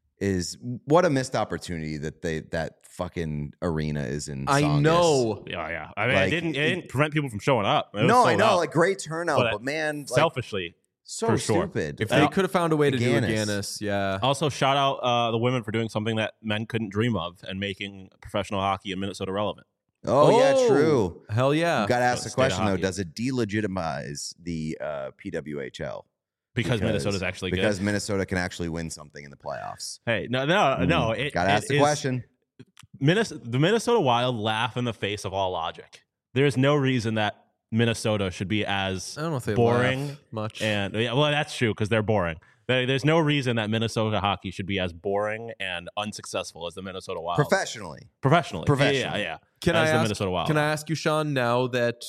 is what a missed opportunity that they that fucking arena is in. I Saugus. know. yeah, yeah. I mean, like, it didn't, it it- didn't prevent people from showing up. It was No, I sold know, out. like great turnout, But, uh, but, man, like, selfishly. so for sure. stupid. If they Uh, could have found a way to do a Ganis. Ganis, yeah. Also, shout out uh, the women for doing something that men couldn't dream of and making professional hockey in Minnesota relevant. oh, yeah, true. Hell yeah. Got to ask So the state of question though: hockey. does it delegitimize the uh, P W H L Because, Minnesota's actually because good. Minnesota can actually win something in the playoffs? Hey, no, no, no. It, Got to it ask the is- question. Minnesota, the Minnesota Wild laugh in the face of all logic. There is no reason that Minnesota should be as I don't know if they boring laugh much. and yeah, well, that's true because they're boring. There- There's no reason that Minnesota hockey should be as boring and unsuccessful as the Minnesota Wild. Professionally, Professionally, Professionally. yeah, yeah. Can as I the ask? Minnesota Wild. Can I ask you, Sean? Now that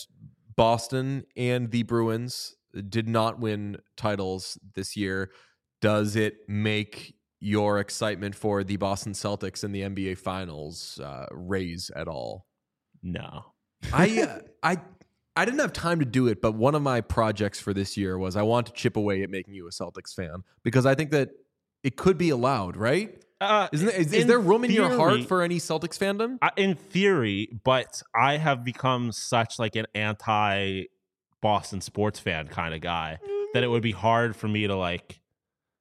Boston and the Bruins did not win titles this year, does it make your excitement for the Boston Celtics in the N B A Finals uh, raise at all? No. I uh, I I didn't have time to do it, but one of my projects for this year was I want to chip away at making you a Celtics fan because I think that it could be allowed, right? Uh, Isn't there, is, is in there room in your heart theory- for any Celtics fandom? I- in theory, but I have become such like an anti Boston sports fan kind of guy that it would be hard for me to like.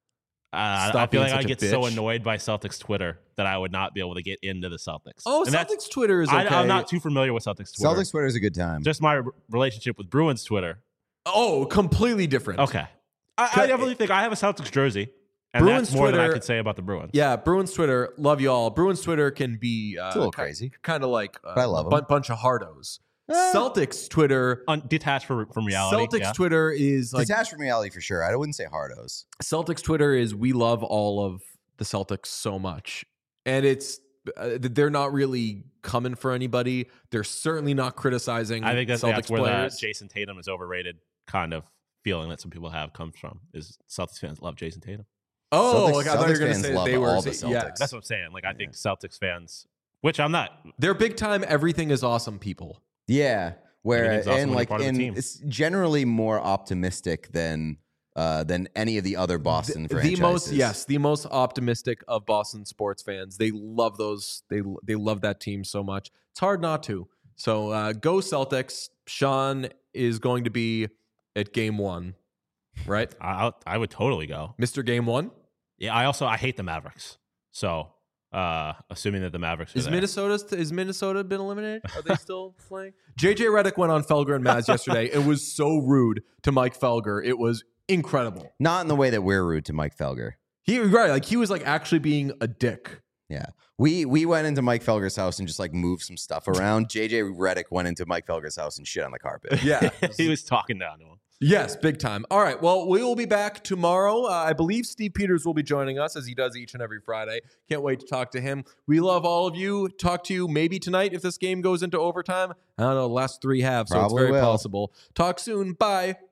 Uh, Stop I feel being like I such a get so bitch. annoyed by Celtics Twitter that I would not be able to get into the Celtics. Oh, And that's- Celtics Twitter is okay. I, I'm not too familiar with Celtics Twitter. Celtics Twitter is a good time. Just my r- relationship with Bruins Twitter. Oh, completely different. Okay. I, I definitely think I have a Celtics jersey, and Bruins that's more than I Twitter- could say about the Bruins. Yeah, Bruins Twitter, love you all. Bruins Twitter can be uh, It's a little ki- crazy. kind of like uh, But I love a bu- 'em. bunch of hardos. Eh. Celtics Twitter, Un- detached from, from reality. Celtics yeah. Twitter is like Detached from reality for sure. I wouldn't say hardos. Celtics Twitter is we love all of the Celtics so much, and it's uh, they're not really coming for anybody. They're certainly not criticizing. I think that's, Celtics that's where players. the Jason Tatum is overrated kind of feeling that some people have comes from. Is Celtics fans love Jason Tatum? Oh, Celtics- like I thought you were Celtics going to fans say love they were. all the yeah, Celtics. That's what I'm saying. Like I think Celtics fans, which I'm not. they're big time. Everything is awesome people. Yeah, where Everything's awesome and when you're like part of the and team. it's generally more optimistic than uh, than any of the other Boston the, franchises. the most yes, the most optimistic of Boston sports fans. They love those. They they love that team so much. It's hard not to. So uh, go Celtics. Sean is going to be at game one, right? I I would totally go. Mister Game One. Yeah. I also I hate the Mavericks. So uh, assuming that the Mavericks are Is there. Minnesota is Minnesota been eliminated? Are they still playing? J J Redick went on Felger and Maz yesterday and was so rude to Mike Felger. It was incredible. Not in the way that we're rude to Mike Felger. He right, like he was like actually being a dick. Yeah. We we went into Mike Felger's house and just like moved some stuff around. J J Redick went into Mike Felger's house and shit on the carpet. Yeah. he was talking down to him. Yes, big time. All right. Well, we will be back tomorrow. Uh, I believe Steve Peters will be joining us as he does each and every Friday. Can't wait to talk to him. We love all of you. Talk to you maybe tonight if this game goes into overtime. I don't know, last three halves, so Probably it's very will. possible. Talk soon. Bye.